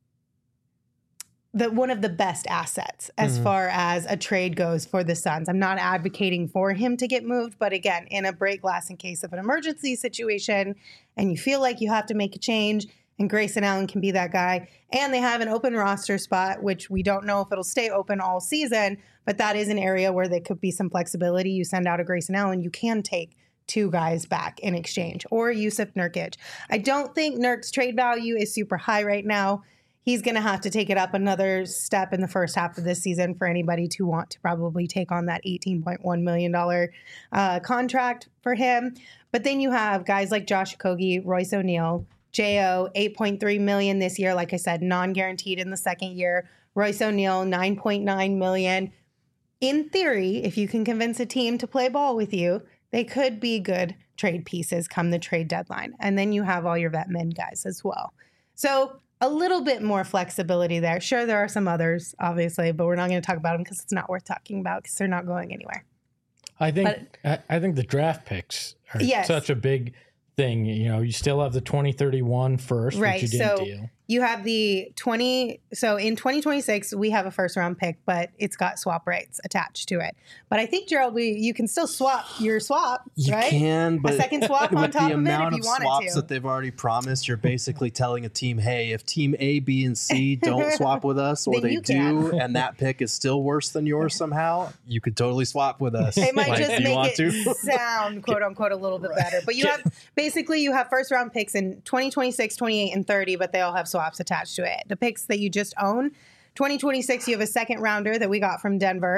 the one of the best assets as mm-hmm. far as a trade goes for the Suns. I'm not advocating for him to get moved, but again, in a break glass in case of an emergency situation and you feel like you have to make a change, and Grayson Allen can be that guy. And they have an open roster spot, which we don't know if it'll stay open all season, but that is an area where there could be some flexibility. You send out a Grayson Allen, you can take two guys back in exchange, or Yusuf Nurkic. I don't think Nurk's trade value is super high right now. He's going to have to take it up another step in the first half of this season for anybody to want to probably take on that eighteen point one million dollars uh, contract for him. But then you have guys like Josh Okogie, Royce O'Neal, J O, eight point three million dollars this year. Like I said, non-guaranteed in the second year. Royce O'Neal, nine point nine million dollars. In theory, if you can convince a team to play ball with you, they could be good trade pieces come the trade deadline. And then you have all your vet men guys as well. So a little bit more flexibility there. Sure, there are some others, obviously, but we're not going to talk about them because it's not worth talking about because they're not going anywhere. I think but, I, I think the draft picks are yes. such a big thing. You know, you still have the twenty thirty-one first, right? Which you didn't so deal. You have the twenty. So in twenty twenty-six, we have a first round pick, but it's got swap rights attached to it. But I think, Gerald, we you can still swap your swap, you right? You can, but a second swap on top the of it amount if you of wanted swaps to. that they've already promised, you're basically telling a team, hey, if team A, B, and C don't swap with us, or they do, and that pick is still worse than yours somehow, you could totally swap with us. It might like, just make it to. sound, quote unquote, a little bit better. But you have basically you have first round picks in twenty twenty-six, twenty-eight, and thirty, but they all have swaps attached to it. The picks that you just own, twenty twenty-six, you have a second rounder that we got from Denver.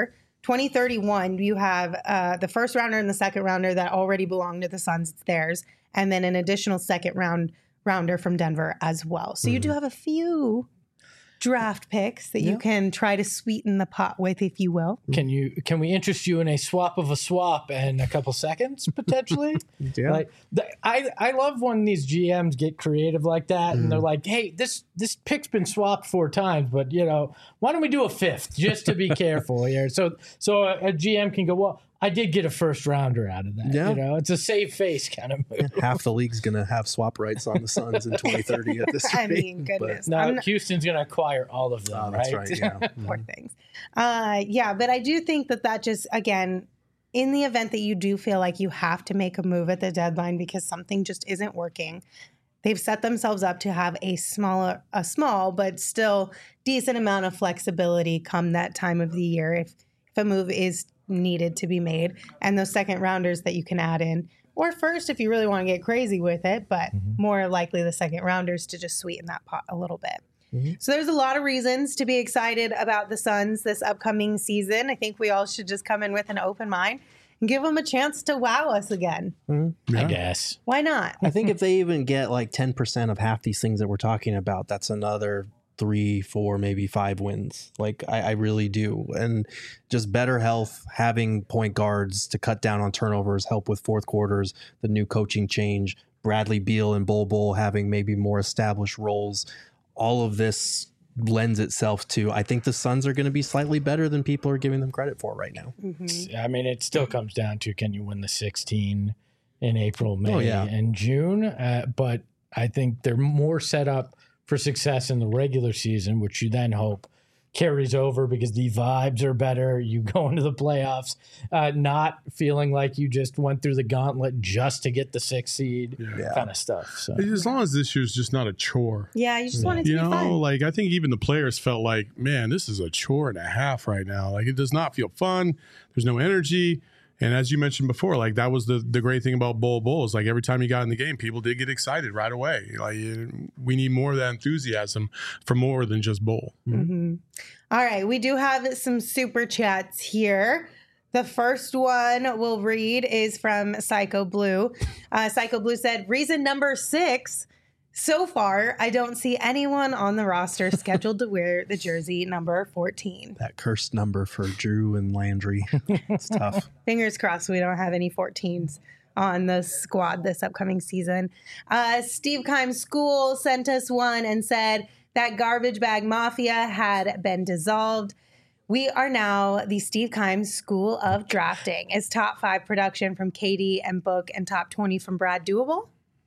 twenty thirty-one, you have uh, the first rounder and the second rounder that already belong to the Suns. It's theirs. And then an additional second round rounder from Denver as well. So mm-hmm. you do have a few draft picks that yeah. you can try to sweeten the pot with, if you will. Can you? Can we interest you in a swap of a swap in a couple seconds, potentially? yeah. Like, the, I, I love when these G Ms get creative like that, mm. and they're like, hey, this this pick's been swapped four times, but, you know, why don't we do a fifth just to be careful here? So so a, a G M can go, well, I did get a first rounder out of that. Yeah. You know, it's a save face kind of move. Half the league's going to have swap rights on the Suns in twenty thirty at this rate. I mean, goodness. No, not, Houston's going to acquire all of them, oh, right? That's right, yeah. Poor things. Uh, yeah, but I do think that that just, again, in the event that you do feel like you have to make a move at the deadline because something just isn't working, they've set themselves up to have a smaller, a small, but still decent amount of flexibility come that time of the year if, if a move is needed to be made, and those second rounders that you can add in, or first if you really want to get crazy with it, but mm-hmm. more likely the second rounders to just sweeten that pot a little bit. Mm-hmm. So there's a lot of reasons to be excited about the Suns this upcoming season. I think we all should just come in with an open mind and give them a chance to wow us again. Mm-hmm. Yeah. I guess. Why not? I think if they even get like ten percent of half these things that we're talking about, that's another three, four, maybe five wins. Like I, I really do. And just better health, having point guards to cut down on turnovers, help with fourth quarters, the new coaching change, Bradley Beal and Bol Bol having maybe more established roles. All of this lends itself to, I think the Suns are going to be slightly better than people are giving them credit for right now. Mm-hmm. I mean, it still comes down to, can you win the sixteen in April, May, oh, yeah. and June? Uh, but I think they're more set up for success in the regular season, which you then hope carries over because the vibes are better. You go into the playoffs uh, not feeling like you just went through the gauntlet just to get the sixth seed, yeah. kind of stuff. So as long as this year's just not a chore. Yeah, you just yeah. want it to you be know, fun. Like I think even the players felt like, man, this is a chore and a half right now. Like it does not feel fun. There's no energy. And as you mentioned before, like that was the, the great thing about Bol Bol is like every time you got in the game, people did get excited right away. Like we need more of that enthusiasm for more than just Bol. Mm-hmm. All right. We do have some super chats here. The first one we'll read is from Psycho Blue. Uh, Psycho Blue said, reason number six. So far, I don't see anyone on the roster scheduled to wear the jersey number fourteen. That cursed number for Drew and Landry. It's tough. Fingers crossed we don't have any fourteens on the squad this upcoming season. Uh, Steve Keim School sent us one and said that Garbage Bag Mafia had been dissolved. We are now the Steve Keim School of Drafting. Is top five production from K D and Book and top twenty from Brad doable?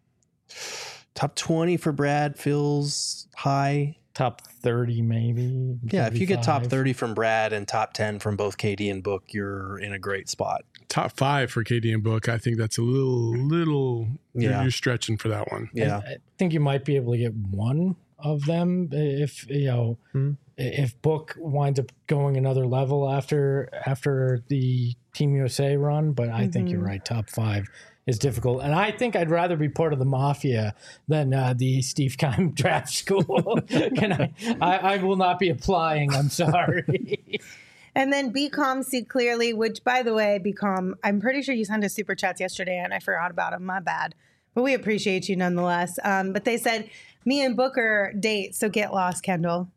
Top twenty for Brad feels high. Top thirty, maybe. Yeah, if you get top thirty from Brad and top ten from both K D and Book, you're in a great spot. Top five for K D and Book, I think that's a little, little, yeah. you're, you're stretching for that one. Yeah. I, I think you might be able to get one of them if, you know, mm-hmm. if Book winds up going another level after after the Team U S A run. But I mm-hmm. think you're right, top five is difficult. And I think I'd rather be part of the Mafia than uh, the Steve Keim Draft School. Can I, I, I will not be applying. I'm sorry. And then Be Calm, See Clearly, which, by the way, Be Calm, I'm pretty sure you sent us super chats yesterday and I forgot about them. My bad. But we appreciate you nonetheless. Um, but they said, me and Booker date, so get lost, Kendall.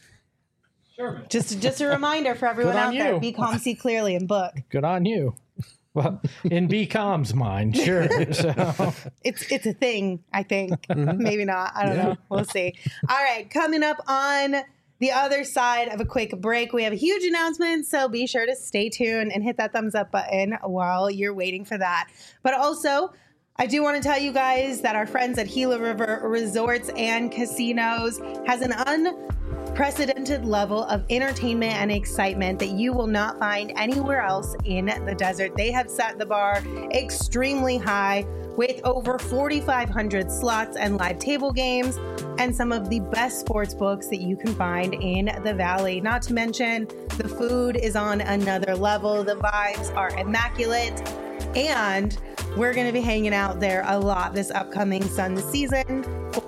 Sure. Just, just a reminder for everyone out you. there, Be Calm, See Clearly, and Book. Good on you. Well, in B COM's mind, sure. So. It's it's a thing, I think. Maybe not. I don't yeah. know. We'll see. All right. Coming up on the other side of a quick break, we have a huge announcement. So be sure to stay tuned and hit that thumbs up button while you're waiting for that. But also, I do want to tell you guys that our friends at Gila River Resorts and Casinos has an unprecedented level of entertainment and excitement that you will not find anywhere else in the desert. They have set the bar extremely high with over forty-five hundred slots and live table games and some of the best sports books that you can find in the Valley. Not to mention, the food is on another level. The vibes are immaculate. And we're going to be hanging out there a lot this upcoming Suns season for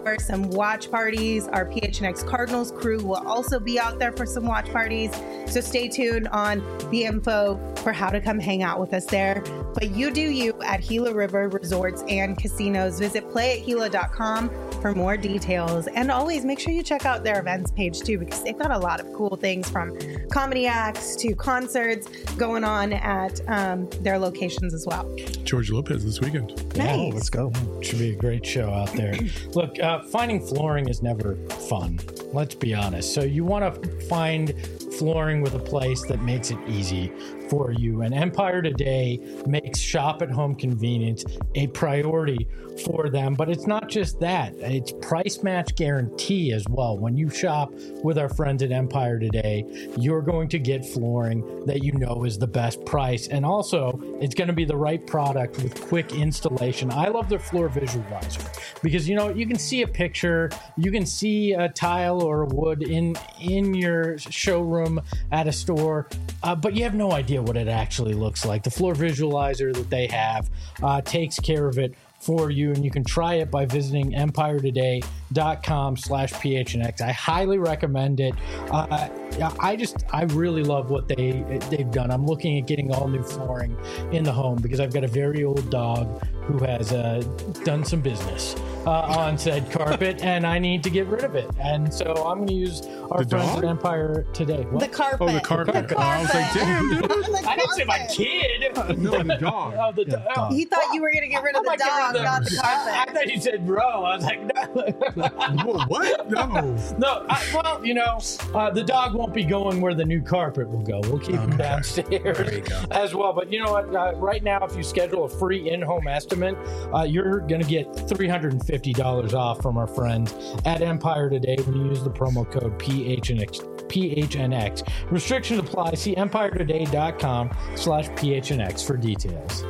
for some watch parties. Our P H N X Cardinals crew will also be out there for some watch parties. So stay tuned on the info for how to come hang out with us there. But you do you at Gila River Resorts and Casinos. Visit play at gila dot com for more details. And always make sure you check out their events page too, because they've got a lot of cool things from comedy acts to concerts going on at um, their locations as well. George Lopez this weekend. Nice. Oh, let's go. Should be a great show out there. Look, uh, finding flooring is never fun. Let's be honest. So you want to find flooring with a place that makes it easy for you. And Empire Today makes shop at home convenience a priority for them. But it's not just that. It's price match guarantee as well. When you shop with our friends at Empire Today, you're going to get flooring that you know is the best price. And also, it's going to be the right product with quick installation. I love their floor visualizer because, you know, you can see a picture, you can see a tile or a wood in, in your showroom at a store, uh, but you have no idea what it actually looks like. The floor visualizer that they have uh, takes care of it for you, and you can try it by visiting empire today dot com slash P H N X. I highly recommend it. Uh, I just, I really love what they, they've done. I'm looking at getting all new flooring in the home because I've got a very old dog who has uh, done some business uh, on said carpet, and I need to get rid of it. And so I'm going to use our The friends dog? at Empire Today. What? The carpet. Oh, the carpet. The carpet. Oh, I was like, damn, dude. The I didn't say my carpet. kid. No, the dog. Oh, the Yeah, dog. dog. He thought you were going to get rid of I the might get dog, rid of not the I, I carpet. thought you said bro. I was like, no. Whoa, what? No. No, I, well, you know, uh, the dog won't be going where the new carpet will go. We'll keep him Okay. downstairs There you go. as well. But you know what? Uh, right now, if you schedule a free in-home estimate, uh, you're going to get three hundred fifty dollars off from our friends at Empire Today when you use the promo code P H N X. P H N X. Restrictions apply. See empire today dot com slash P H N X for details.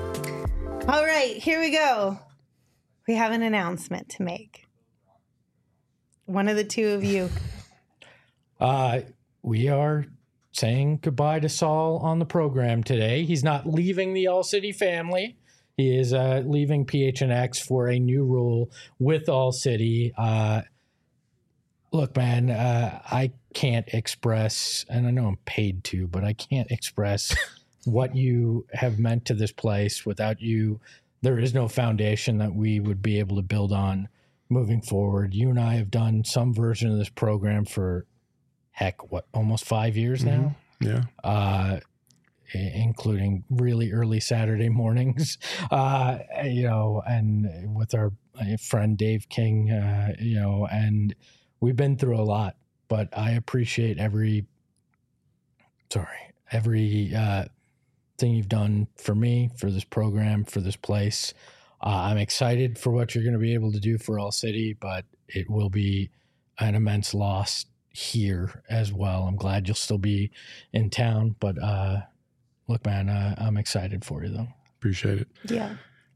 All right, here we go. We have an announcement to make. One of the two of you. Uh, we are saying goodbye to Saul on the program today. He's not leaving the All City family. He is uh, leaving P H N X for a new role with All City. Uh, look, man, uh, I can't express, and I know I'm paid to, but I can't express what you have meant to this place. Without you, there is no foundation that we would be able to build on moving forward. You and I have done some version of this program for, heck, what, almost five years now? Yeah. Uh, i- including really early Saturday mornings, uh, you know, and with our uh, friend Dave King, uh, you know, and we've been through a lot, but I appreciate every, sorry, every uh, thing you've done for me, for this program, for this place. Uh, I'm excited for what you're going to be able to do for All City, but it will be an immense loss here as well. I'm glad you'll still be in town, but uh, look, man, uh, I'm excited for you though. Appreciate it. Yeah.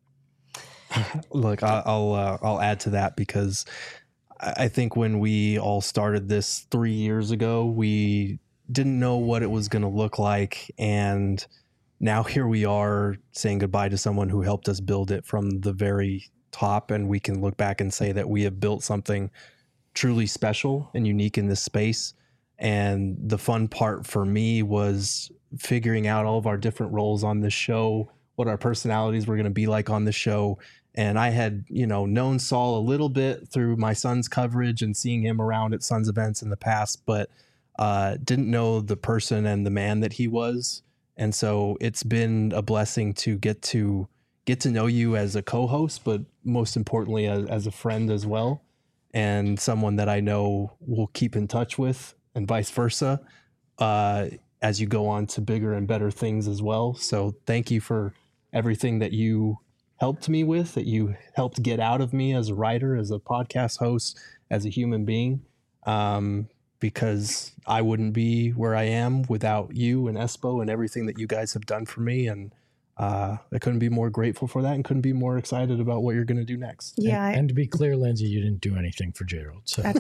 Look, I- I'll uh, I'll add to that because I I think when we all started this three years ago, we didn't know what it was going to look like, and now here we are saying goodbye to someone who helped us build it from the very top, and we can look back and say that we have built something truly special and unique in this space. And the fun part for me was figuring out all of our different roles on this show, what our personalities were going to be like on the show. And I had, you know, known Saul a little bit through my son's coverage and seeing him around at Suns events in the past, but uh, didn't know the person and the man that he was. And so it's been a blessing to get to get to know you as a co-host, but most importantly, as, as a friend as well, and someone that I know will keep in touch with, and vice versa, uh, as you go on to bigger and better things as well. So thank you for everything that you helped me with, that you helped get out of me as a writer, as a podcast host, as a human being. Um, because I wouldn't be where I am without you and Espo and everything that you guys have done for me. And uh, I couldn't be more grateful for that and couldn't be more excited about what you're going to do next. Yeah. I- And, and to be clear, Lindsay, you didn't do anything for Gerald. So That's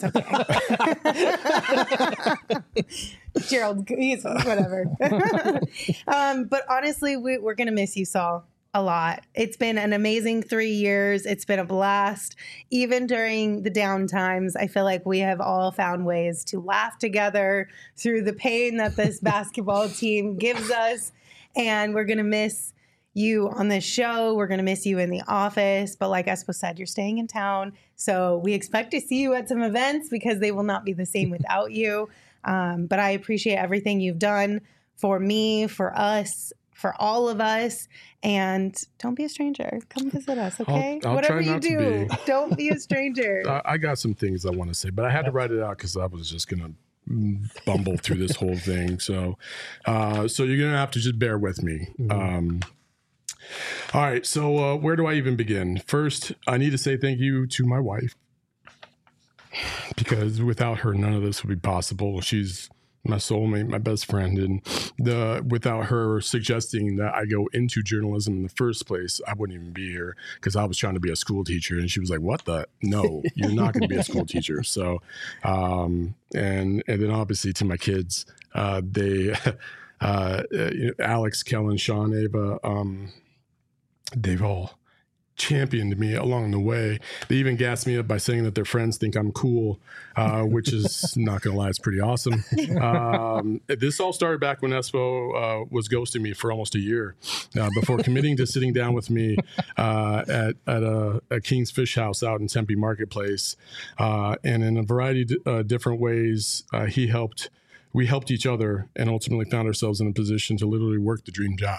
okay. Gerald, he's whatever. um, but honestly, we, we're going to miss you, Saul. a lot. It's been an amazing three years. It's been a blast. Even during the down times, I feel like we have all found ways to laugh together through the pain that this basketball team gives us. And we're going to miss you on this show. We're going to miss you in the office. But like Espo said, you're staying in town. So we expect to see you at some events because they will not be the same without you. Um, but I appreciate everything you've done for me, for us, for all of us. And don't be a stranger. Come visit us, okay? I'll, I'll Whatever try you not to do, be. don't be a stranger. I, I got some things I want to say, but I had to write it out because I was just going to bumble through this whole thing. So, uh, so you're going to have to just bear with me. Mm-hmm. Um, all right. So uh, where do I even begin? First, I need to say thank you to my wife, because without her, none of this would be possible. She's my soulmate, my best friend. And the without her suggesting that I go into journalism in the first place, I wouldn't even be here, because I was trying to be a school teacher. And she was like, what the? No, you're not going to be a school teacher. So, um, and, and then obviously to my kids, uh, they, uh, you know, Alex, Kellen, Sean, Ava, um, they've all championed me along the way. They even gassed me up by saying that their friends think I'm cool, uh, which is not going to lie, it's pretty awesome. Um, this all started back when Espo uh, was ghosting me for almost a year uh, before committing to sitting down with me uh, at, at a, a King's Fish House out in Tempe Marketplace. Uh, and in a variety of uh, different ways, uh, he helped, we helped each other, and ultimately found ourselves in a position to literally work the dream job.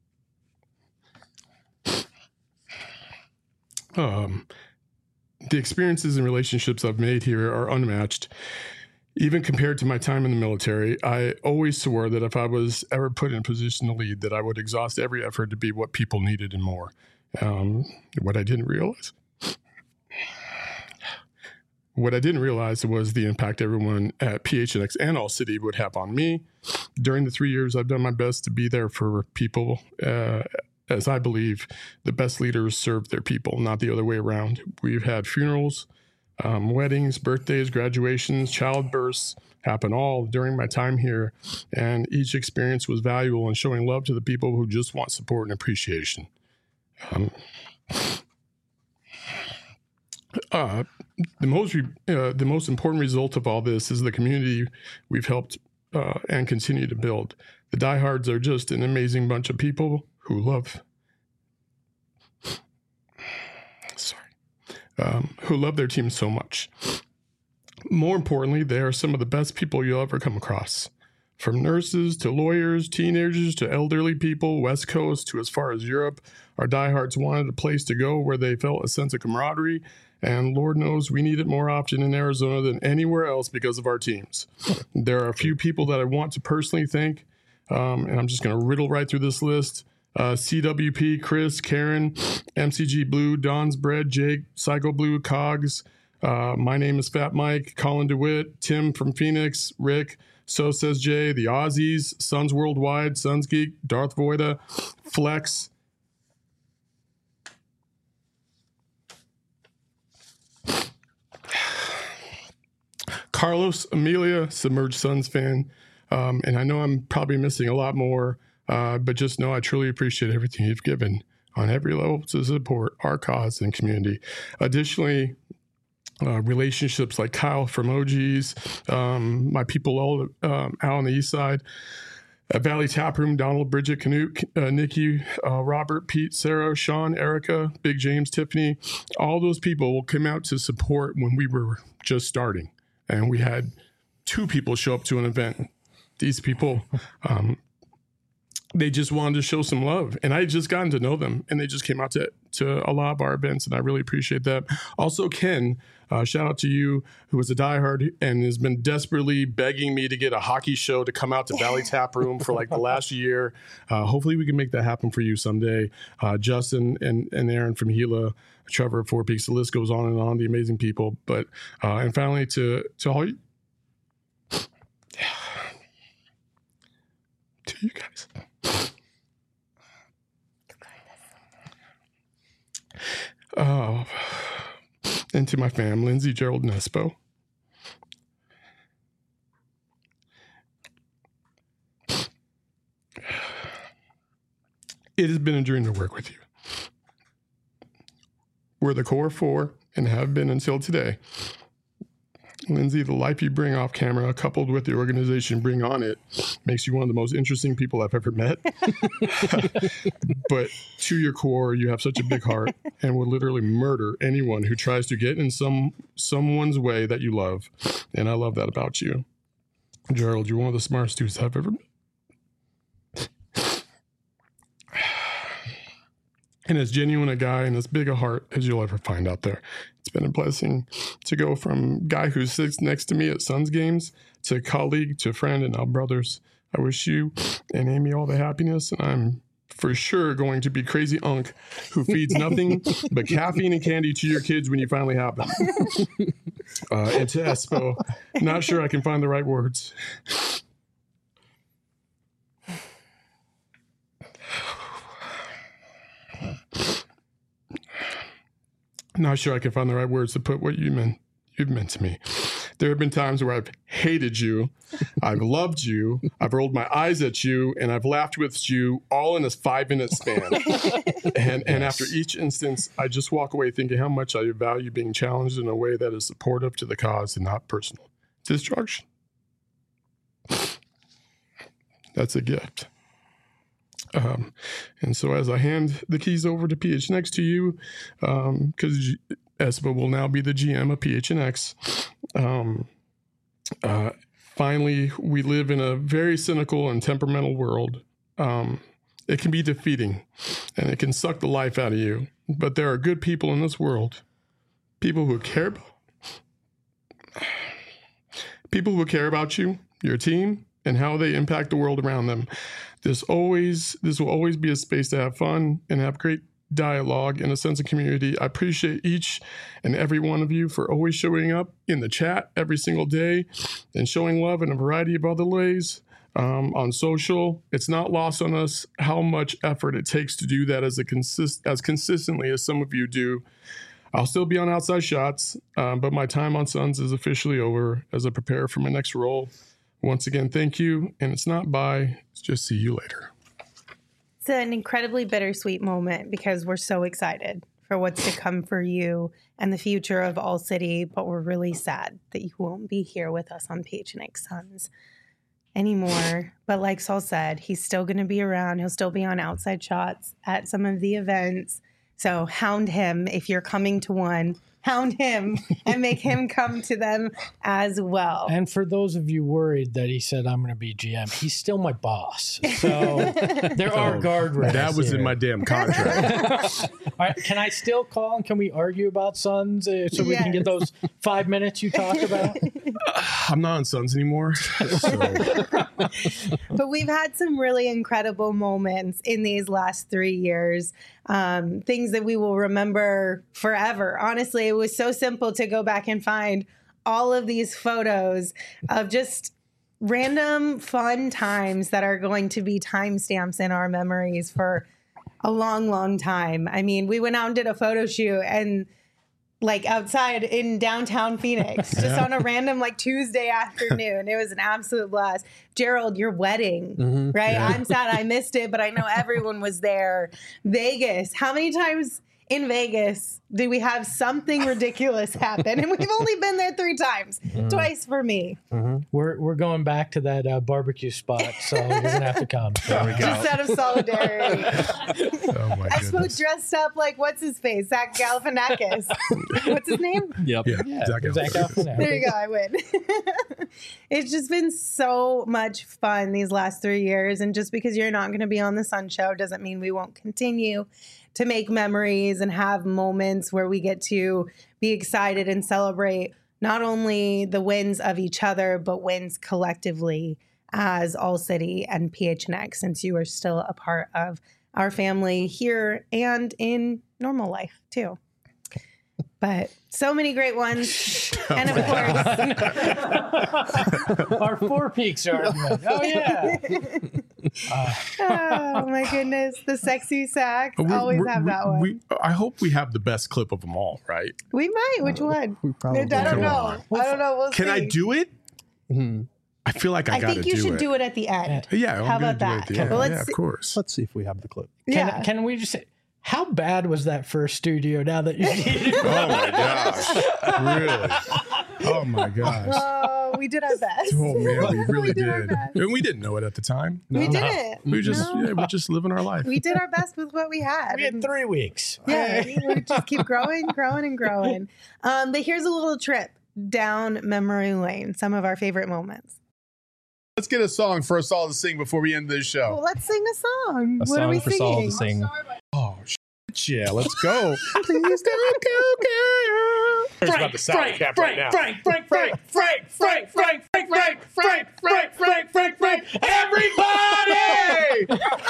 Um, the experiences and relationships I've made here are unmatched. Even compared to my time in the military, I always swore that if I was ever put in a position to lead, that I would exhaust every effort to be what people needed and more. Um, what I didn't realize, what I didn't realize was the impact everyone at P H N X and All City would have on me. During the three years, I've done my best to be there for people, uh, as I believe the best leaders serve their people, not the other way around. We've had funerals, um, weddings, birthdays, graduations, childbirths happen all during my time here. And each experience was valuable in showing love to the people who just want support and appreciation. Um, uh, the most re- uh, the most important result of all this is the community we've helped uh, and continue to build. The diehards are just an amazing bunch of people who love, sorry, um, who love their team so much. More importantly, they are some of the best people you'll ever come across. From nurses to lawyers, teenagers to elderly people, West Coast to as far as Europe, our diehards wanted a place to go where they felt a sense of camaraderie. And Lord knows we need it more often in Arizona than anywhere else because of our teams. There are a few people that I want to personally thank, um, and I'm just going to riddle right through this list. Uh, C W P, Chris, Karen, M C G Blue, Don's Bread, Jake, Psycho Blue, Cogs. Uh, my name is Fat Mike, Colin DeWitt, Tim from Phoenix, Rick, So Says Jay, the Aussies, Suns Worldwide, Suns Geek, Darth Voida, Flex. Carlos, Amelia, Submerged Suns fan. Um, and I know I'm probably missing a lot more. Uh, but just know I truly appreciate everything you've given on every level to support our cause and community. Additionally, uh, relationships like Kyle from O Gs, um, my people all um, out on the east side, at Valley Taproom, Donald, Bridget, Canute, uh, Nikki, uh, Robert, Pete, Sarah, Sean, Erica, Big James, Tiffany, all those people will come out to support when we were just starting. And we had two people show up to an event. These people, um, they just wanted to show some love, and I had just gotten to know them, and they just came out to, to a lot of our events, and I really appreciate that. Also, Ken, uh, shout out to you, who is a diehard and has been desperately begging me to get a hockey show to come out to Valley Tap Room for like the last year. Uh, hopefully we can make that happen for you someday. Uh, Justin and, and Aaron from Gila, Trevor at Four Peaks, the list goes on and on, the amazing people. But, uh, and finally to, to all you, to you guys. Oh, and to my fam, Lindsay, Gerald, and Espo. It has been a dream to work with you. We're the core four and have been until today. Lindsay, the life you bring off camera, coupled with the organization bring on it, makes you one of the most interesting people I've ever met. But to your core, you have such a big heart and will literally murder anyone who tries to get in some someone's way that you love. And I love that about you. Gerald, you're one of the smartest dudes I've ever met. And as genuine a guy and as big a heart as you'll ever find out there. It's been a blessing to go from guy who sits next to me at Suns games to colleague to friend and now brothers. I wish you and Amy all the happiness, and I'm for sure going to be crazy unk who feeds nothing but caffeine and candy to your kids when you finally have them. Uh, and to Espo, not sure I can find the right words. Not sure I can find the right words to put what you meant, you've meant to me. There have been times where I've hated you, I've loved you, I've rolled my eyes at you, and I've laughed with you all in a five-minute span. and and after each instance, I just walk away thinking how much I value being challenged in a way that is supportive to the cause and not personal destruction. That's a gift. Um, and so as I hand the keys over to P H N X to you, because um, Espo will now be the G M of P H N X, um, uh, finally, we live in a very cynical and temperamental world. Um, it can be defeating, and it can suck the life out of you. But there are good people in this world, people who care about, people who care about you, your team, and how they impact the world around them. This always, this will always be a space to have fun and have great dialogue and a sense of community. I appreciate each and every one of you for always showing up in the chat every single day and showing love in a variety of other ways um, on social. It's not lost on us how much effort it takes to do that as a consist as consistently as some of you do. I'll still be on Outside Shots, um, but my time on Suns is officially over as I prepare for my next role. Once again, thank you, and it's not bye, it's just see you later. It's an incredibly bittersweet moment because we're so excited for what's to come for you and the future of All City, but we're really sad that you won't be here with us on P H N X Suns anymore. But like Saul said, he's still going to be around. He'll still be on Outside Shots at some of the events. So hound him if you're coming to one. Hound him and make him come to them as well. And for those of you worried that he said I'm going to be G M, he's still my boss. So there are guardrails. That was here. in my damn contract. All right, can I still call and can we argue about Suns uh, so we Yes. can get those five minutes you talked about? I'm not on Suns anymore. So. But we've had some really incredible moments in these last three years. Um, things that we will remember forever. Honestly, it was so simple to go back and find all of these photos of just random fun times that are going to be timestamps in our memories for a long, long time. I mean, we went out and did a photo shoot and like outside in downtown Phoenix, just Yeah. on a random like Tuesday afternoon. It was an absolute blast. Gerald, your wedding, Mm-hmm. right? Yeah. I'm sad I missed it, but I know everyone was there. Vegas. How many times in Vegas did we have something ridiculous happen? And we've only been there three times, Mm-hmm. twice for me. We're we're going back to that uh, barbecue spot, so you're gonna have to come. There we go. Just out of solidarity. Oh my I suppose goodness. dressed up like, what's his face? Zach Galifianakis. What's his name? Yep. Yeah, Yeah, Zach Zach Galifianakis. Galifianakis. There you go. I win. It's just been so much fun these last three years. And just because you're not going to be on the Sun Show doesn't mean we won't continue to make memories and have moments where we get to be excited and celebrate not only the wins of each other, but wins collectively as All City and P H N X, since you are still a part of our family here and in normal life too. But so many great ones. And of course, Our Four Peaks argument. Oh yeah. Uh, oh my goodness, the sexy sax. We're- Always we're- have that one. We, We, I hope we have the best clip of them all, right? might. Which one? We probably I don't Come know. on. I don't know. We'll Can see. I do it? Mhm. I feel like I, I got to think you do should it. do it at the end. Yeah. I'm How gonna about do it that? at the end. Well, let's yeah, of see- course. Let's see if we have the clip. Can, Yeah. can we just say, how bad was that first studio now that you see it? Oh my gosh. Really? Oh my gosh. Oh, we did our best. Oh man, we really did our did. best. And we didn't know it at the time. We did it. We just No. yeah, we're just living our life. We did our best with what we had. We had three weeks. Yeah, we just keep growing, growing, and growing. Um, but here's a little trip down memory lane. Some of our favorite moments. Let's get a song for us all to sing before we end this show. Well, let's sing a song. A what song are we for singing? Saul to sing. Oh shit, yeah, let's go. Please don't go, girl. It's about the salad cap right now. Frank, Frank, Frank, Frank, Frank, Frank, Frank, Frank, Frank, Frank, Frank, Frank, Frank, everybody!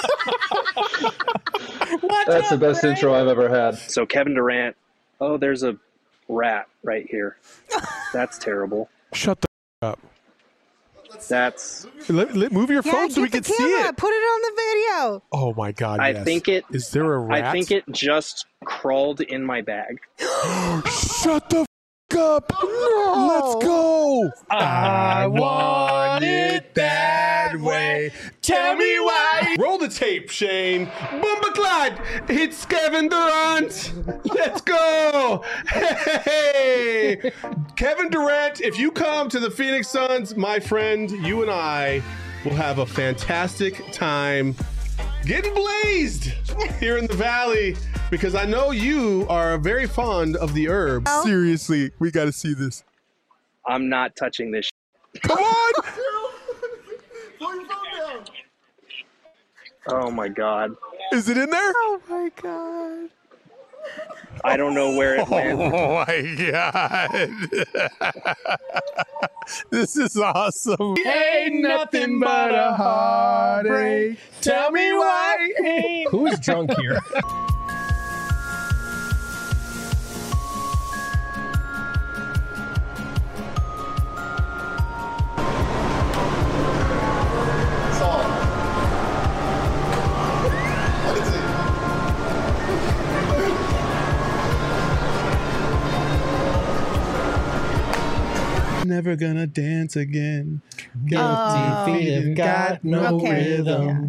What's That's the up, best Frank? intro I've ever had. So Kevin Durant, oh, there's a rat right here. That's terrible. Shut the up. That's, Let, let, move your Yeah, phone so we get can the see camera. it. Put it on the video. Oh my god! I yes. think it, Is there a rat? I think it just crawled in my bag. Shut the f- up! Let's go! I want it that way. Tell me why. Roll the tape, Shane. Bumba Clyde. It's Kevin Durant. Let's go. Hey, Kevin Durant. If you come to the Phoenix Suns, my friend, you and I will have a fantastic time getting blazed here in the Valley, because I know you are very fond of the herb. Seriously, we got to see this. I'm not touching this. Sh- Come on! oh my god. Is it in there? Oh my god. I don't know where it went. Oh my god. This is awesome. Ain't nothing but a heartache. Tell me why. Who is drunk here? Never gonna dance again. Oh. Feet have got no Okay. rhythm.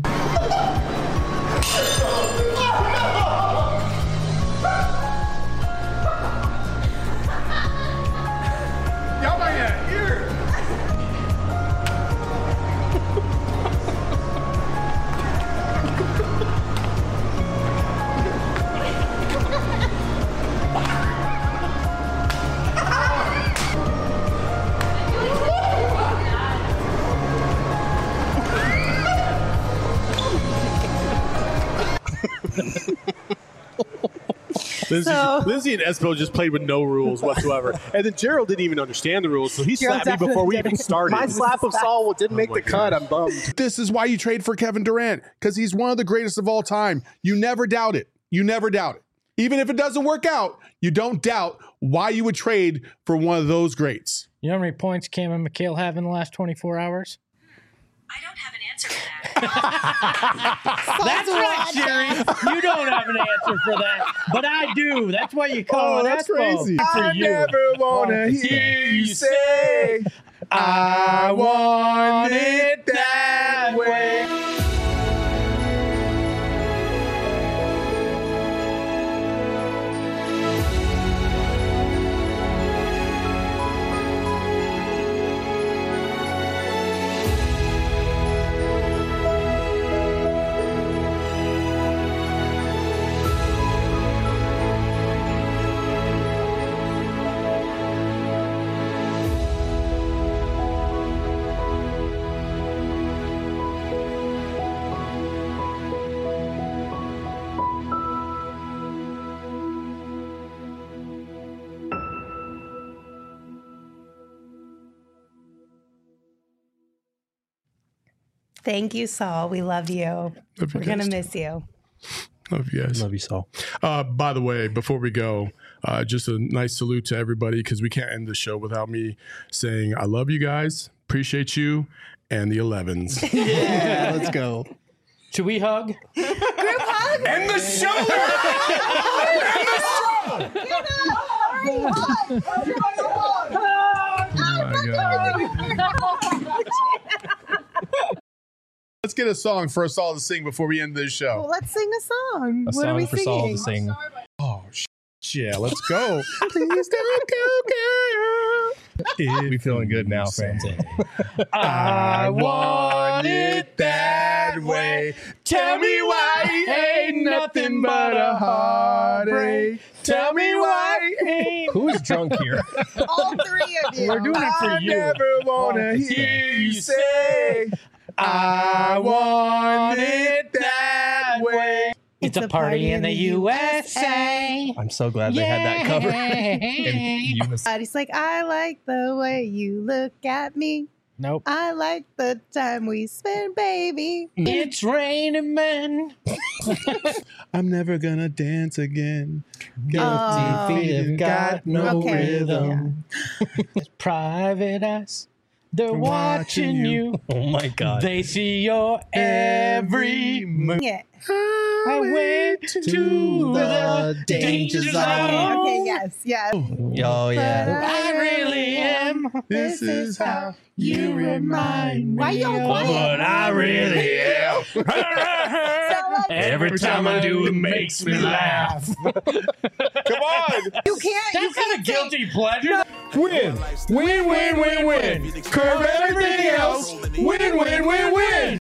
Y'all might have here. Lindsay, So- Lindsay and Espo just played with no rules whatsoever. And then Gerald didn't even understand the rules, so he Gerald slapped me before we definitely even started. My slap of Saul didn't make my the cut. gosh. I'm bummed. This is why you trade for Kevin Durant, because he's one of the greatest of all time. You never doubt it. You never doubt it. Even if it doesn't work out, you don't doubt why you would trade for one of those greats. You know how many points Cam and McHale have in the last twenty-four hours? I don't have an answer for that. That's right, Sherry. You don't have an answer for that, but I do. That's why you call it Espo. For I you. never wanna hear you say, I want it that way. Thank you, Saul. We love you. Love you We're going to guys. miss you. Love you guys. Love you, Saul. Uh, by the way, before we go, uh, just a nice salute to everybody, because we can't end the show without me saying I love you guys, appreciate you, and the elevens. Yeah, let's go. Should we hug? Group hug. End the show! Oh my God. Oh my God. let's get a song for us all to sing before we end this show. Well, let's sing a song. A what are song we for singing? Saul to sing. Oh, sh- yeah, let's go. Please don't go, girl. We feeling good now, fans. I want it that way. Tell me why ain't nothing but a heartache. Tell me why ain't. Who's drunk here? All three of you. We're doing it for I you. never wanna hear you say I want it that way. It's a party in the U S A. I'm so glad they had that cover. in unison. And he's like, I like the way you look at me. Nope. I like the time we spend, baby. It's raining men. I'm never gonna dance again. Oh. Feet have got no Okay, rhythm. It's private eyes. They're watching you. Oh my God. They see your every move. Yeah. I went to the danger zone. Okay, yes, yes. Oh, yeah. I really am. This is how You remind me. Why y'all of quiet? what I really am. Every time I do, it makes me laugh. Come on. You can't. You That's not a can't say- guilty pleasure. Win. Win, win, win, win. Curve everything else. Win, win, win, win.